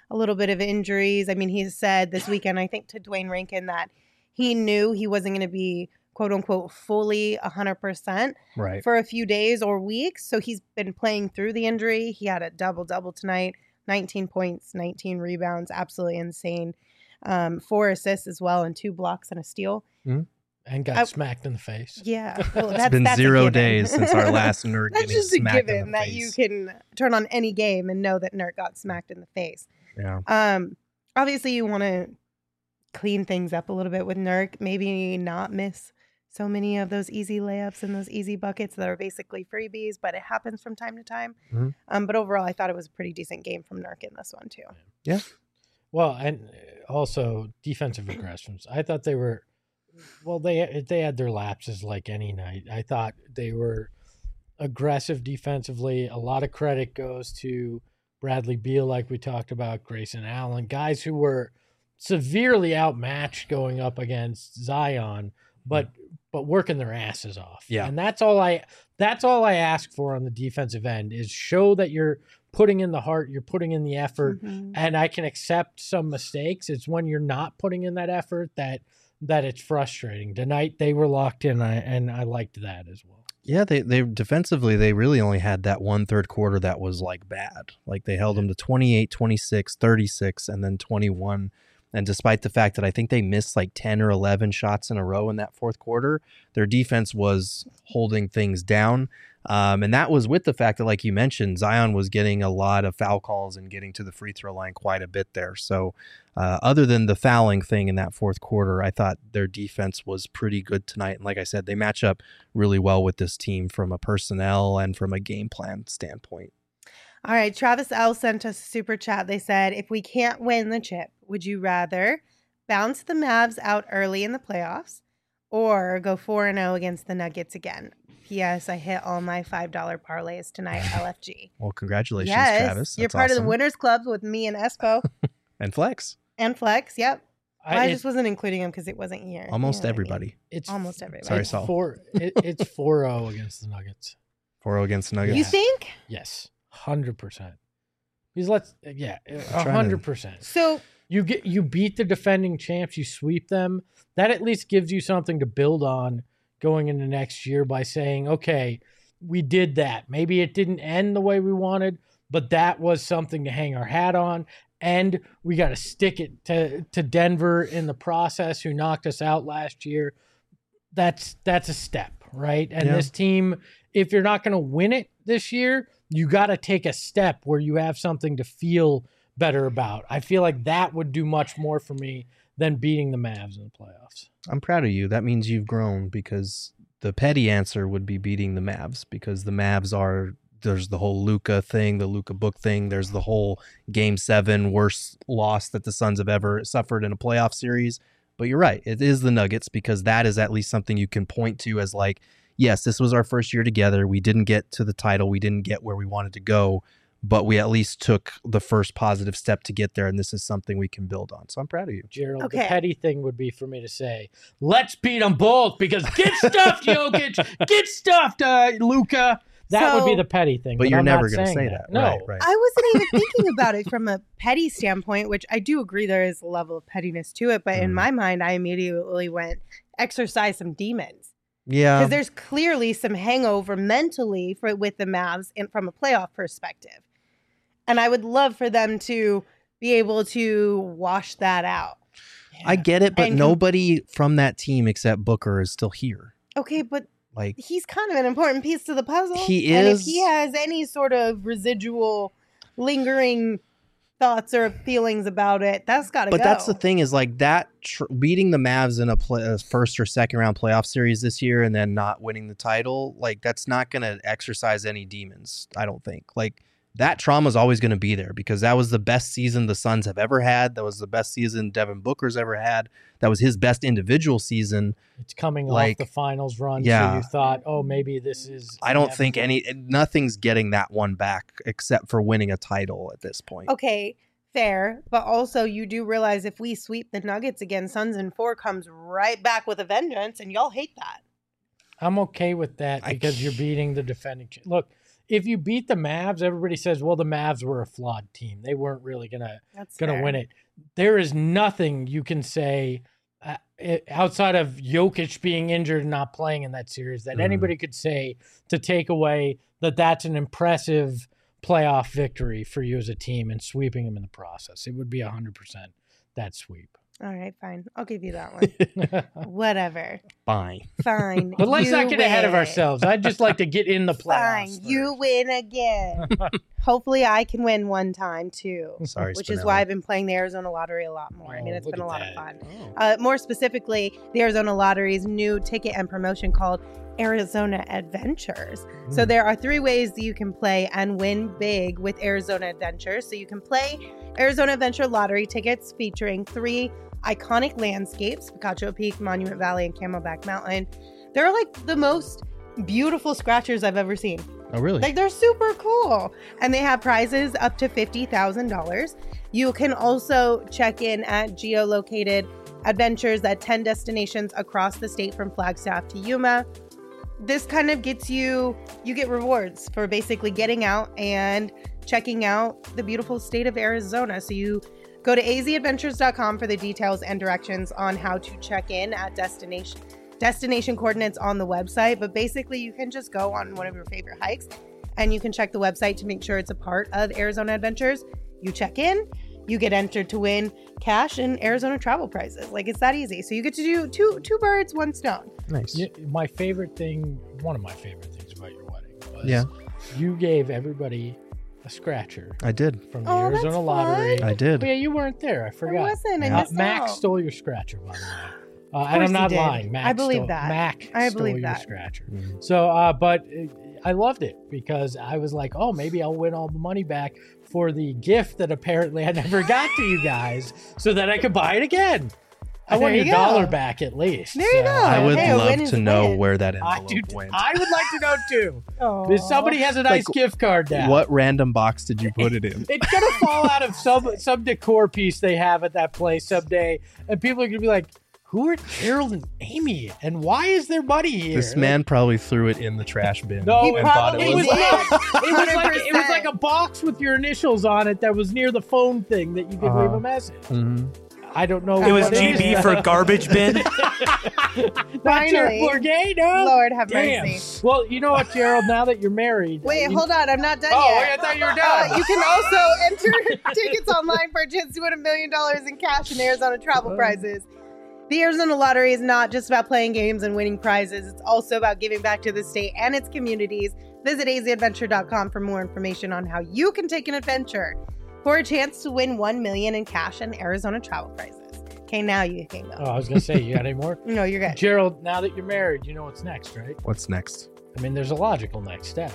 a little bit of injuries. I mean, he said this weekend, I think, to Dwayne Rankin that he knew he wasn't going to be, quote unquote, fully one hundred percent Right. for a few days or weeks. So he's been playing through the injury. He had a double-double tonight, nineteen points, nineteen rebounds, absolutely insane. Um, four assists as well, and two blocks and a steal. Mm-hmm. And got I, smacked in the face. Yeah. Well, It's that's, been that's zero days since our last Nurk That's getting just a smacked in given the that face. you can turn on any game and know that Nurk got smacked in the face. Yeah. Um, obviously, you want to clean things up a little bit with Nurk. Maybe not miss so many of those easy layups and those easy buckets that are basically freebies, but it happens from time to time. Mhm. Um, but overall, I thought it was a pretty decent game from Nurk in this one, too. Yeah. Well, and also defensive aggressions. I thought they were, well, they they had their lapses like any night. I thought they were aggressive defensively. A lot of credit goes to Bradley Beal, like we talked about, Grayson Allen, guys who were severely outmatched going up against Zion, but but working their asses off. Yeah. And that's all I that's all I ask for on the defensive end is show that you're putting in the heart, you're putting in the effort, Mhm. and I can accept some mistakes. It's when you're not putting in that effort that that it's frustrating. Tonight they were locked in, I, and I liked that as well. Yeah, they they defensively they really only had that one third quarter that was like bad. Like they held them to twenty-eight, twenty-six, thirty-six, and then twenty-one. And despite the fact that I think they missed like ten or eleven shots in a row in that fourth quarter, their defense was holding things down. Um, and that was with the fact that, like you mentioned, Zion was getting a lot of foul calls and getting to the free throw line quite a bit there. So uh, other than the fouling thing in that fourth quarter, I thought their defense was pretty good tonight. And like I said, they match up really well with this team from a personnel and from a game plan standpoint. All right, Travis L. sent us a super chat. They said, if we can't win the chip, would you rather bounce the Mavs out early in the playoffs or go four and oh against the Nuggets again? P S. I hit all my five dollar parlays tonight, L F G. Well, congratulations, yes, Travis. you're That's part of awesome. the Winners Club with me and Espo And Flex. and Flex. Yep. I, I it- just wasn't including him because it wasn't here. You Almost know what I mean? everybody. it's Almost everybody. Sorry, it's Saul. four. It, it's four zero against the Nuggets. four oh against the Nuggets. You think? Yes, hundred percent. Because let's yeah, trying a to- hundred percent. So You get you beat the defending champs, you sweep them. That at least gives you something to build on going into next year by saying, okay, we did that. Maybe it didn't end the way we wanted, but that was something to hang our hat on. And we got to stick it to, to Denver in the process, who knocked us out last year. That's that's a step, right? And Yeah. this team, if you're not going to win it this year, you got to take a step where you have something to feel better about. I feel like that would do much more for me than beating the Mavs in the playoffs. I'm proud of you. That means you've grown, because the petty answer would be beating the Mavs, because the Mavs are, there's the whole Luka thing, the Luka book thing. There's the whole game seven worst loss that the Suns have ever suffered in a playoff series. But you're right. It is the Nuggets, because that is at least something you can point to as like, yes, this was our first year together. We didn't get to the title. We didn't get where we wanted to go, but we at least took the first positive step to get there. And this is something we can build on. So I'm proud of you. Gerald, Okay. the petty thing would be for me to say, let's beat them both, because get stuffed, Jokic, get stuffed, uh, Luka. That would be So- the petty thing. But you're I'm never not going to saying say that. No, Right, right. I wasn't even thinking about it from a petty standpoint, which I do agree there is a level of pettiness to it. But in Mhm. my mind, I immediately went, exercise some demons. Yeah. Because there's clearly some hangover mentally for with the Mavs and from a playoff perspective. And I would love for them to be able to wash that out. I get it, but And com- nobody from that team except Booker is still here. Okay, but Like, he's kind of an important piece to the puzzle. He And if is- he has any sort of residual lingering thoughts or feelings about it, that's got to go. but that's the thing is like that tr- beating the Mavs in a, play, a first or second round playoff series this year and then not winning the title, like that's not going to exercise any demons. I don't think. Like that trauma is always going to be there, because that was the best season the Suns have ever had. That was the best season Devin Booker's ever had. That was his best individual season. It's coming Like, off the finals run, yeah. so you thought, oh, maybe this is... I don't think any nothing's getting that one back except for winning a title at this point. Okay, fair. But also, you do realize if we sweep the Nuggets again, Suns in four comes right back with a vengeance, and y'all hate that. I'm okay with that I because you're beating the defending. Ch- Look, if you beat the Mavs, everybody says, well, the Mavs were a flawed team. They weren't really gonna That's gonna fair. win it. There is nothing you can say uh, it- outside of Jokic being injured and not playing in that series that Mhm. anybody could say to take away that that's an impressive playoff victory for you as a team and sweeping them in the process. It would be one hundred percent that sweep. All right, fine. I'll give you that one. Whatever. Fine. Fine. But let's You not get ahead of win. ourselves. I'd just like to get in the Fine. playoffs. You win again. Hopefully, I can win one time too. Sorry, Which is Spinelli. why I've been playing the Arizona Lottery a lot more. I mean, Oh, it's look been a at lot that. of fun. Oh. Uh, more specifically, the Arizona Lottery's new ticket and promotion called Arizona Adventures. So there are three ways that you can play and win big with Arizona Adventures. So you can play Arizona Adventure Lottery tickets featuring three iconic landscapes, Picacho Peak, Monument Valley, and Camelback Mountain. They're like the most beautiful scratchers I've ever seen. Oh, really? Like, they're super cool. And they have prizes up to fifty thousand dollars. You can also check in at geolocated adventures at ten destinations across the state from Flagstaff to Yuma. This kind of gets you, you get rewards for basically getting out and checking out the beautiful state of Arizona. So you go to a z adventures dot com for the details and directions on how to check in at destination destination coordinates on the website. But basically, you can just go on one of your favorite hikes and you can check the website to make sure it's a part of Arizona Adventures. You check in, you get entered to win cash and Arizona travel prizes. Like, it's that easy. So you get to do two two birds, one stone. Nice. Yeah, my favorite thing, one of my favorite things about your wedding was Yeah. you gave everybody a scratcher I did. from the Oh, that's Arizona Lottery. fun. I did. Oh, yeah, you weren't there. I I forgot. wasn't. I Uh, missed Max out. stole your scratcher, by the way. Uh, and course I'm he not did. lying. Max I believe stole, that. Mac I stole believe your that. scratcher. Mhm. So, uh, but uh, I loved it because I was like, oh, maybe I'll win all the money back for the gift that apparently I never got to you guys so that I could buy it again. I There want you your dollar go. back at least. There you So, go. I would Hey, a win love is to a know win. where that I, envelope do, went. I would like to know too. Aw. If somebody has a nice Like, gift card down. What random box did you put it in? It's gonna fall out of some some decor piece they have at that place someday, and people are gonna be like, "Who are Gerald and Amy, and why is there money here?" This man probably threw it in the trash bin No, He and thought probably it it was was. did. not. It was like it was one hundred percent. like a box with your initials on it that was near the phone thing that you could Uh-huh. leave a message. Mhm. I don't know. It was what G is. B for garbage bin. Not your Finally. Forgay, no. Lord have Damn. mercy. Well, you know what, Gerald? Now that you're married, Wait, you- hold on. I'm not done Oh, yet. wait, I thought you were done. Uh, you can also enter tickets online for a chance to win a million dollars in cash and Arizona travel prizes. The Arizona Lottery is not just about playing games and winning prizes. It's also about giving back to the state and its communities. Visit a z adventure dot com for more information on how you can take an adventure for a chance to win one million dollars in cash and Arizona travel prizes. Okay, now you can go. Oh, I was gonna say, you got any more? No, you're good. Gerald, now that you're married, you know what's next, right? What's next? I mean, there's a logical next step.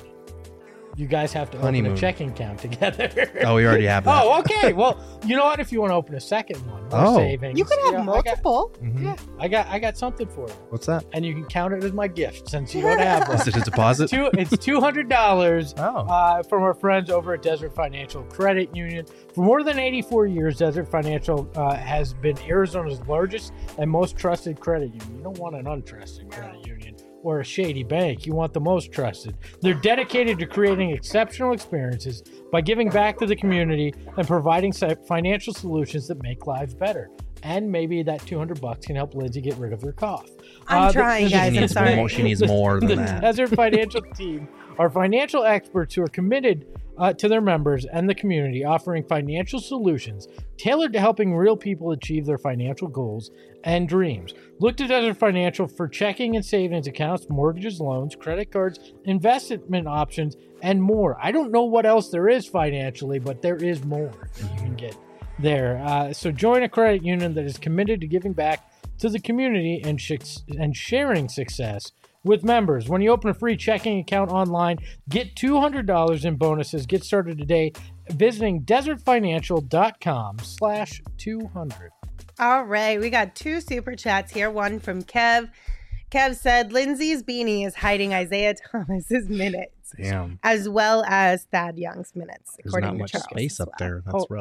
You guys have to open Honeymoon. a checking account together. Oh, we already have that. Oh, okay. Well, you know what? If you want to open a second one, more Oh. savings. You can have know, I got- multiple. Mhm. yeah, I got, I got something for you, What's that? and you can count it as my gift since you don't have one. Is it a deposit? Two, it's two hundred dollars. Oh. Uh, from our friends over at Desert Financial Credit Union. For more than eighty-four years, Desert Financial uh, has been Arizona's largest and most trusted credit union. You don't want an untrusted credit union or a shady bank. You want the most trusted. They're dedicated to creating exceptional experiences by giving back to the community and providing si- financial solutions that make lives better. And maybe that two hundred bucks can help Lindsay get rid of her cough. I'm the- trying, the- She guys. I'm needs sorry. more. She needs more than the that. Desert Financial team are financial experts who are committed uh, to their members and the community, offering financial solutions tailored to helping real people achieve their financial goals and dreams. Look to Desert Financial for checking and savings accounts, mortgages, loans, credit cards, investment options, and more. I don't know what else there is financially, but there is more that you can get there. Uh, so join a credit union that is committed to giving back to the community and, sh- and sharing success with members. When you open a free checking account online, get two hundred dollars in bonuses. Get started today visiting desertfinancial.com slash 200. All right, we got two super chats here. One from Kev. Kev said Lindsay's beanie is hiding Isaiah Thomas's minutes, Damn. as well as Thad Young's minutes, There's according not to much Charles space as up well. there. That's Oh. rough.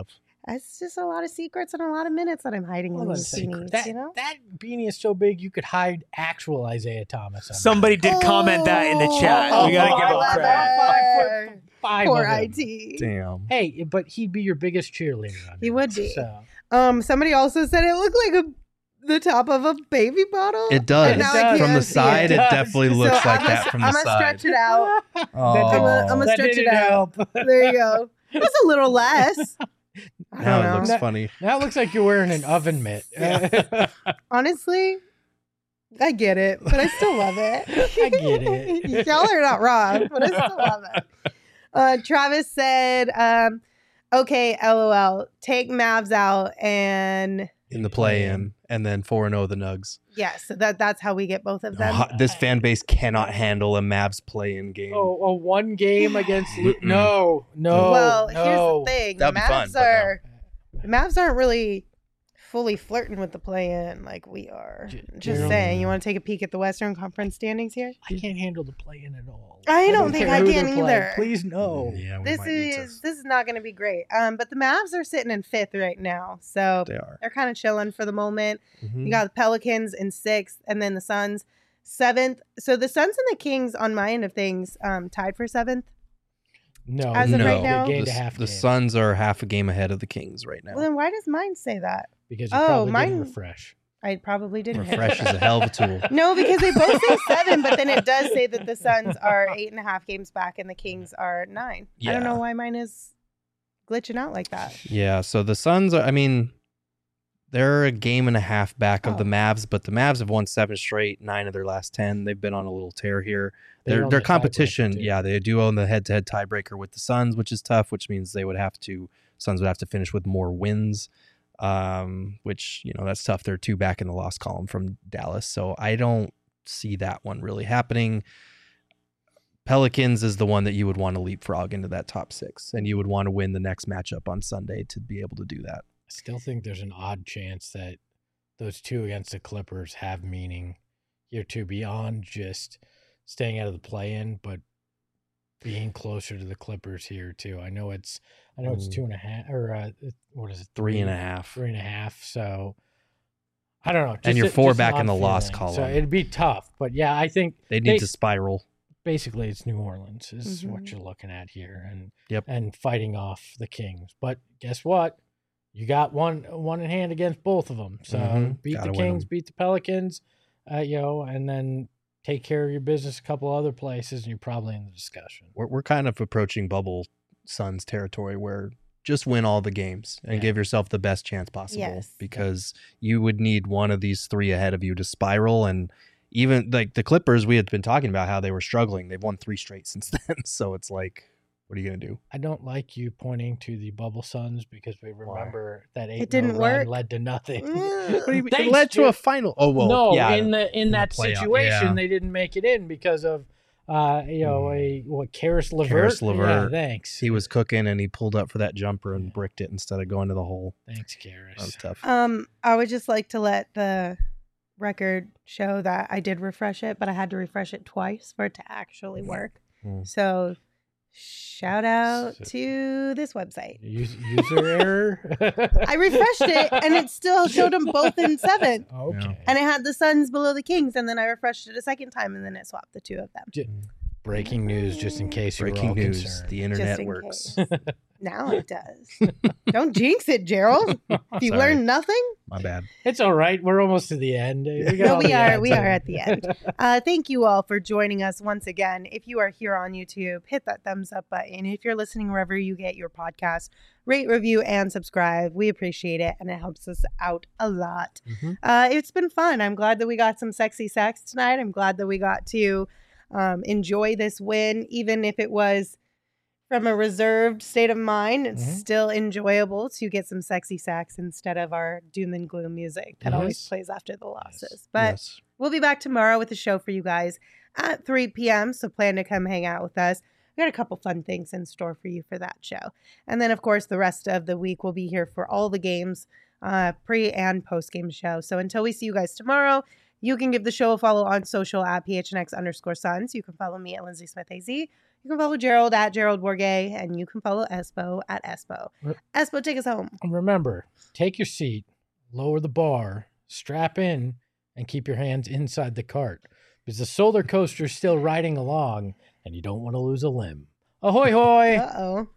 It's just a lot of secrets and a lot of minutes that I'm hiding Hold in on a these second. beanies, That, you know? that beanie is so big you could hide actual Isaiah Thomas. On Somebody did comment that in the chat. We gotta give him clever. credit. Five foot five Poor of him. I T. Damn. Hey, but he'd be your biggest cheerleader. On He your would list, be. So. Um, somebody also said it looked like a the top of a baby bottle. It does. And now I It does. can't From the see side, it, It does. definitely looks So like I'm that gonna, from the I'm gonna side. stretch it out. That Oh. didn't- I'm gonna, I'm gonna that stretch it didn't out. help. There you go. That's a little less. I Now don't it know. looks That- funny. Now it looks like you're wearing an oven mitt. Honestly, I get it, but I still love it. I get it. Y'all are not wrong, but I still love it. Uh, Travis said, um, okay, LOL, take Mavs out and In the play-in, and then four and oh the Nugs. yes, so that that's how we get both of them. Oh, this fan base cannot handle a Mavs play-in game. Oh, a one game against Lu- Mm-mm. no, no. well, no. here's the thing: the That'd be fun, Mavs but no. are the Mavs aren't really fully flirting with the play-in like we are. J- Just Gerald- saying. You want to take a peek at the Western Conference standings here? I can't handle the play in at all. I don't think care I who can they're playing. either. Please no. Yeah, we This might need to- is this is not going to be great. Um, but the Mavs are sitting in fifth right now, so They are. they're kind of chilling for the moment. Mhm. You got the Pelicans in sixth, and then the Suns seventh. So the Suns and the Kings, on my end of things, um, tied for seventh. No. As of no, right now? They gained the, a half the game Suns are half a game ahead of the Kings right now. Well, then why does mine say that? because you oh, probably mine- didn't refresh. I probably didn't. Refresh is a hell of a tool. No, because they both say seven, but then it does say that the Suns are eight and a half games back and the Kings are nine. I don't know Yeah. why mine is glitching out like that. Yeah, so the Suns are, I mean, they're a game and a half back of Oh. the Mavs, but the Mavs have won seven straight, nine of their last ten. They've been on a little tear here. They Their own their the competition, tiebreaker, too. yeah, they do own the head-to-head tiebreaker with the Suns, which is tough, which means they would have to Suns would have to finish with more wins. Um, which, you know, that's tough. They're two back in the loss column from Dallas. So I don't see that one really happening. Pelicans is the one that you would want to leapfrog into that top six, and you would want to win the next matchup on Sunday to be able to do that. I still think there's an odd chance that those two against the Clippers have meaning here too, beyond just staying out of the play-in, but being closer to the Clippers here too. I know it's, I know it's Mm. two and a half, or uh, what is it, Three and a half. three and a half. So I don't know. And you're a- four an back in odd the loss feeling. column. So it'd be tough, but yeah, I think They need They- to spiral. basically it's New Orleans is what Mhm. you're looking at here, and Yep. and fighting off the Kings. But guess what? You got one one in hand against both of them. So Mhm. beat Gotta the win Kings, 'em. beat the Pelicans, uh, you know, and then take care of your business a couple other places, and you're probably in the discussion. We're, we're kind of approaching bubble Suns territory where just win all the games and Yeah. give yourself the best chance possible, Yes. because you would need one of these three ahead of you to spiral. And even like the Clippers, we had been talking about how they were struggling. They've won three straight since then. So it's like, what are you going to do? I don't like you pointing to the bubble Suns because we remember that eight didn't run work. led to nothing. Mm. What do you mean? Thanks, It led to a Jeff. final. Oh, well, no, yeah. in the in in the that playoff, situation, yeah. they didn't make it in because of uh, you know, a what Karis LeVert. Karis Yeah, LeVert. thanks. he was cooking and he pulled up for that jumper and bricked it instead of going to the hole. Thanks, That was Karis. tough. Um, I would just like to let the record show that I did refresh it, but I had to refresh it twice for it to actually work. Mm. So, shout out So- to this website. Us- user error. I refreshed it, and it still showed them both in seventh, Okay. and it had the Suns below the Kings. And then I refreshed it a second time, and then it swapped the two of them. Breaking news, just in case you were Breaking all news. concerned. The internet in works. case. Now it does. Don't jinx it, Gerald. If you Sorry. learn nothing, My bad. It's all right. We're almost to the end. We got no, all we the are. ads We are in. at the end. Uh, thank you all for joining us once again. If you are here on YouTube, hit that thumbs up button. If you're listening wherever you get your podcast, rate, review, and subscribe. We appreciate it, and it helps us out a lot. Mhm. Uh, it's been fun. I'm glad that we got some sexy sex tonight. I'm glad that we got to um, enjoy this win, even if it was from a reserved state of mind. It's Mhm. still enjoyable to get some sexy sax instead of our doom and gloom music that always Yes. plays after the losses. But Yes. we'll be back tomorrow with a show for you guys at three p.m. So plan to come hang out with us. We got a couple fun things in store for you for that show. And then, of course, the rest of the week we'll be here for all the games, uh, pre and post game show. So until we see you guys tomorrow, you can give the show a follow on social at P H N X underscore Suns. You can follow me at Lindsay Smith A Z. You can follow Gerald at Gerald Bourget, and you can follow Espo at Espo. Espo, take us home. Remember, take your seat, lower the bar, strap in, and keep your hands inside the cart because the solar coaster is still riding along, and you don't want to lose a limb. Ahoy, hoy! Uh-oh.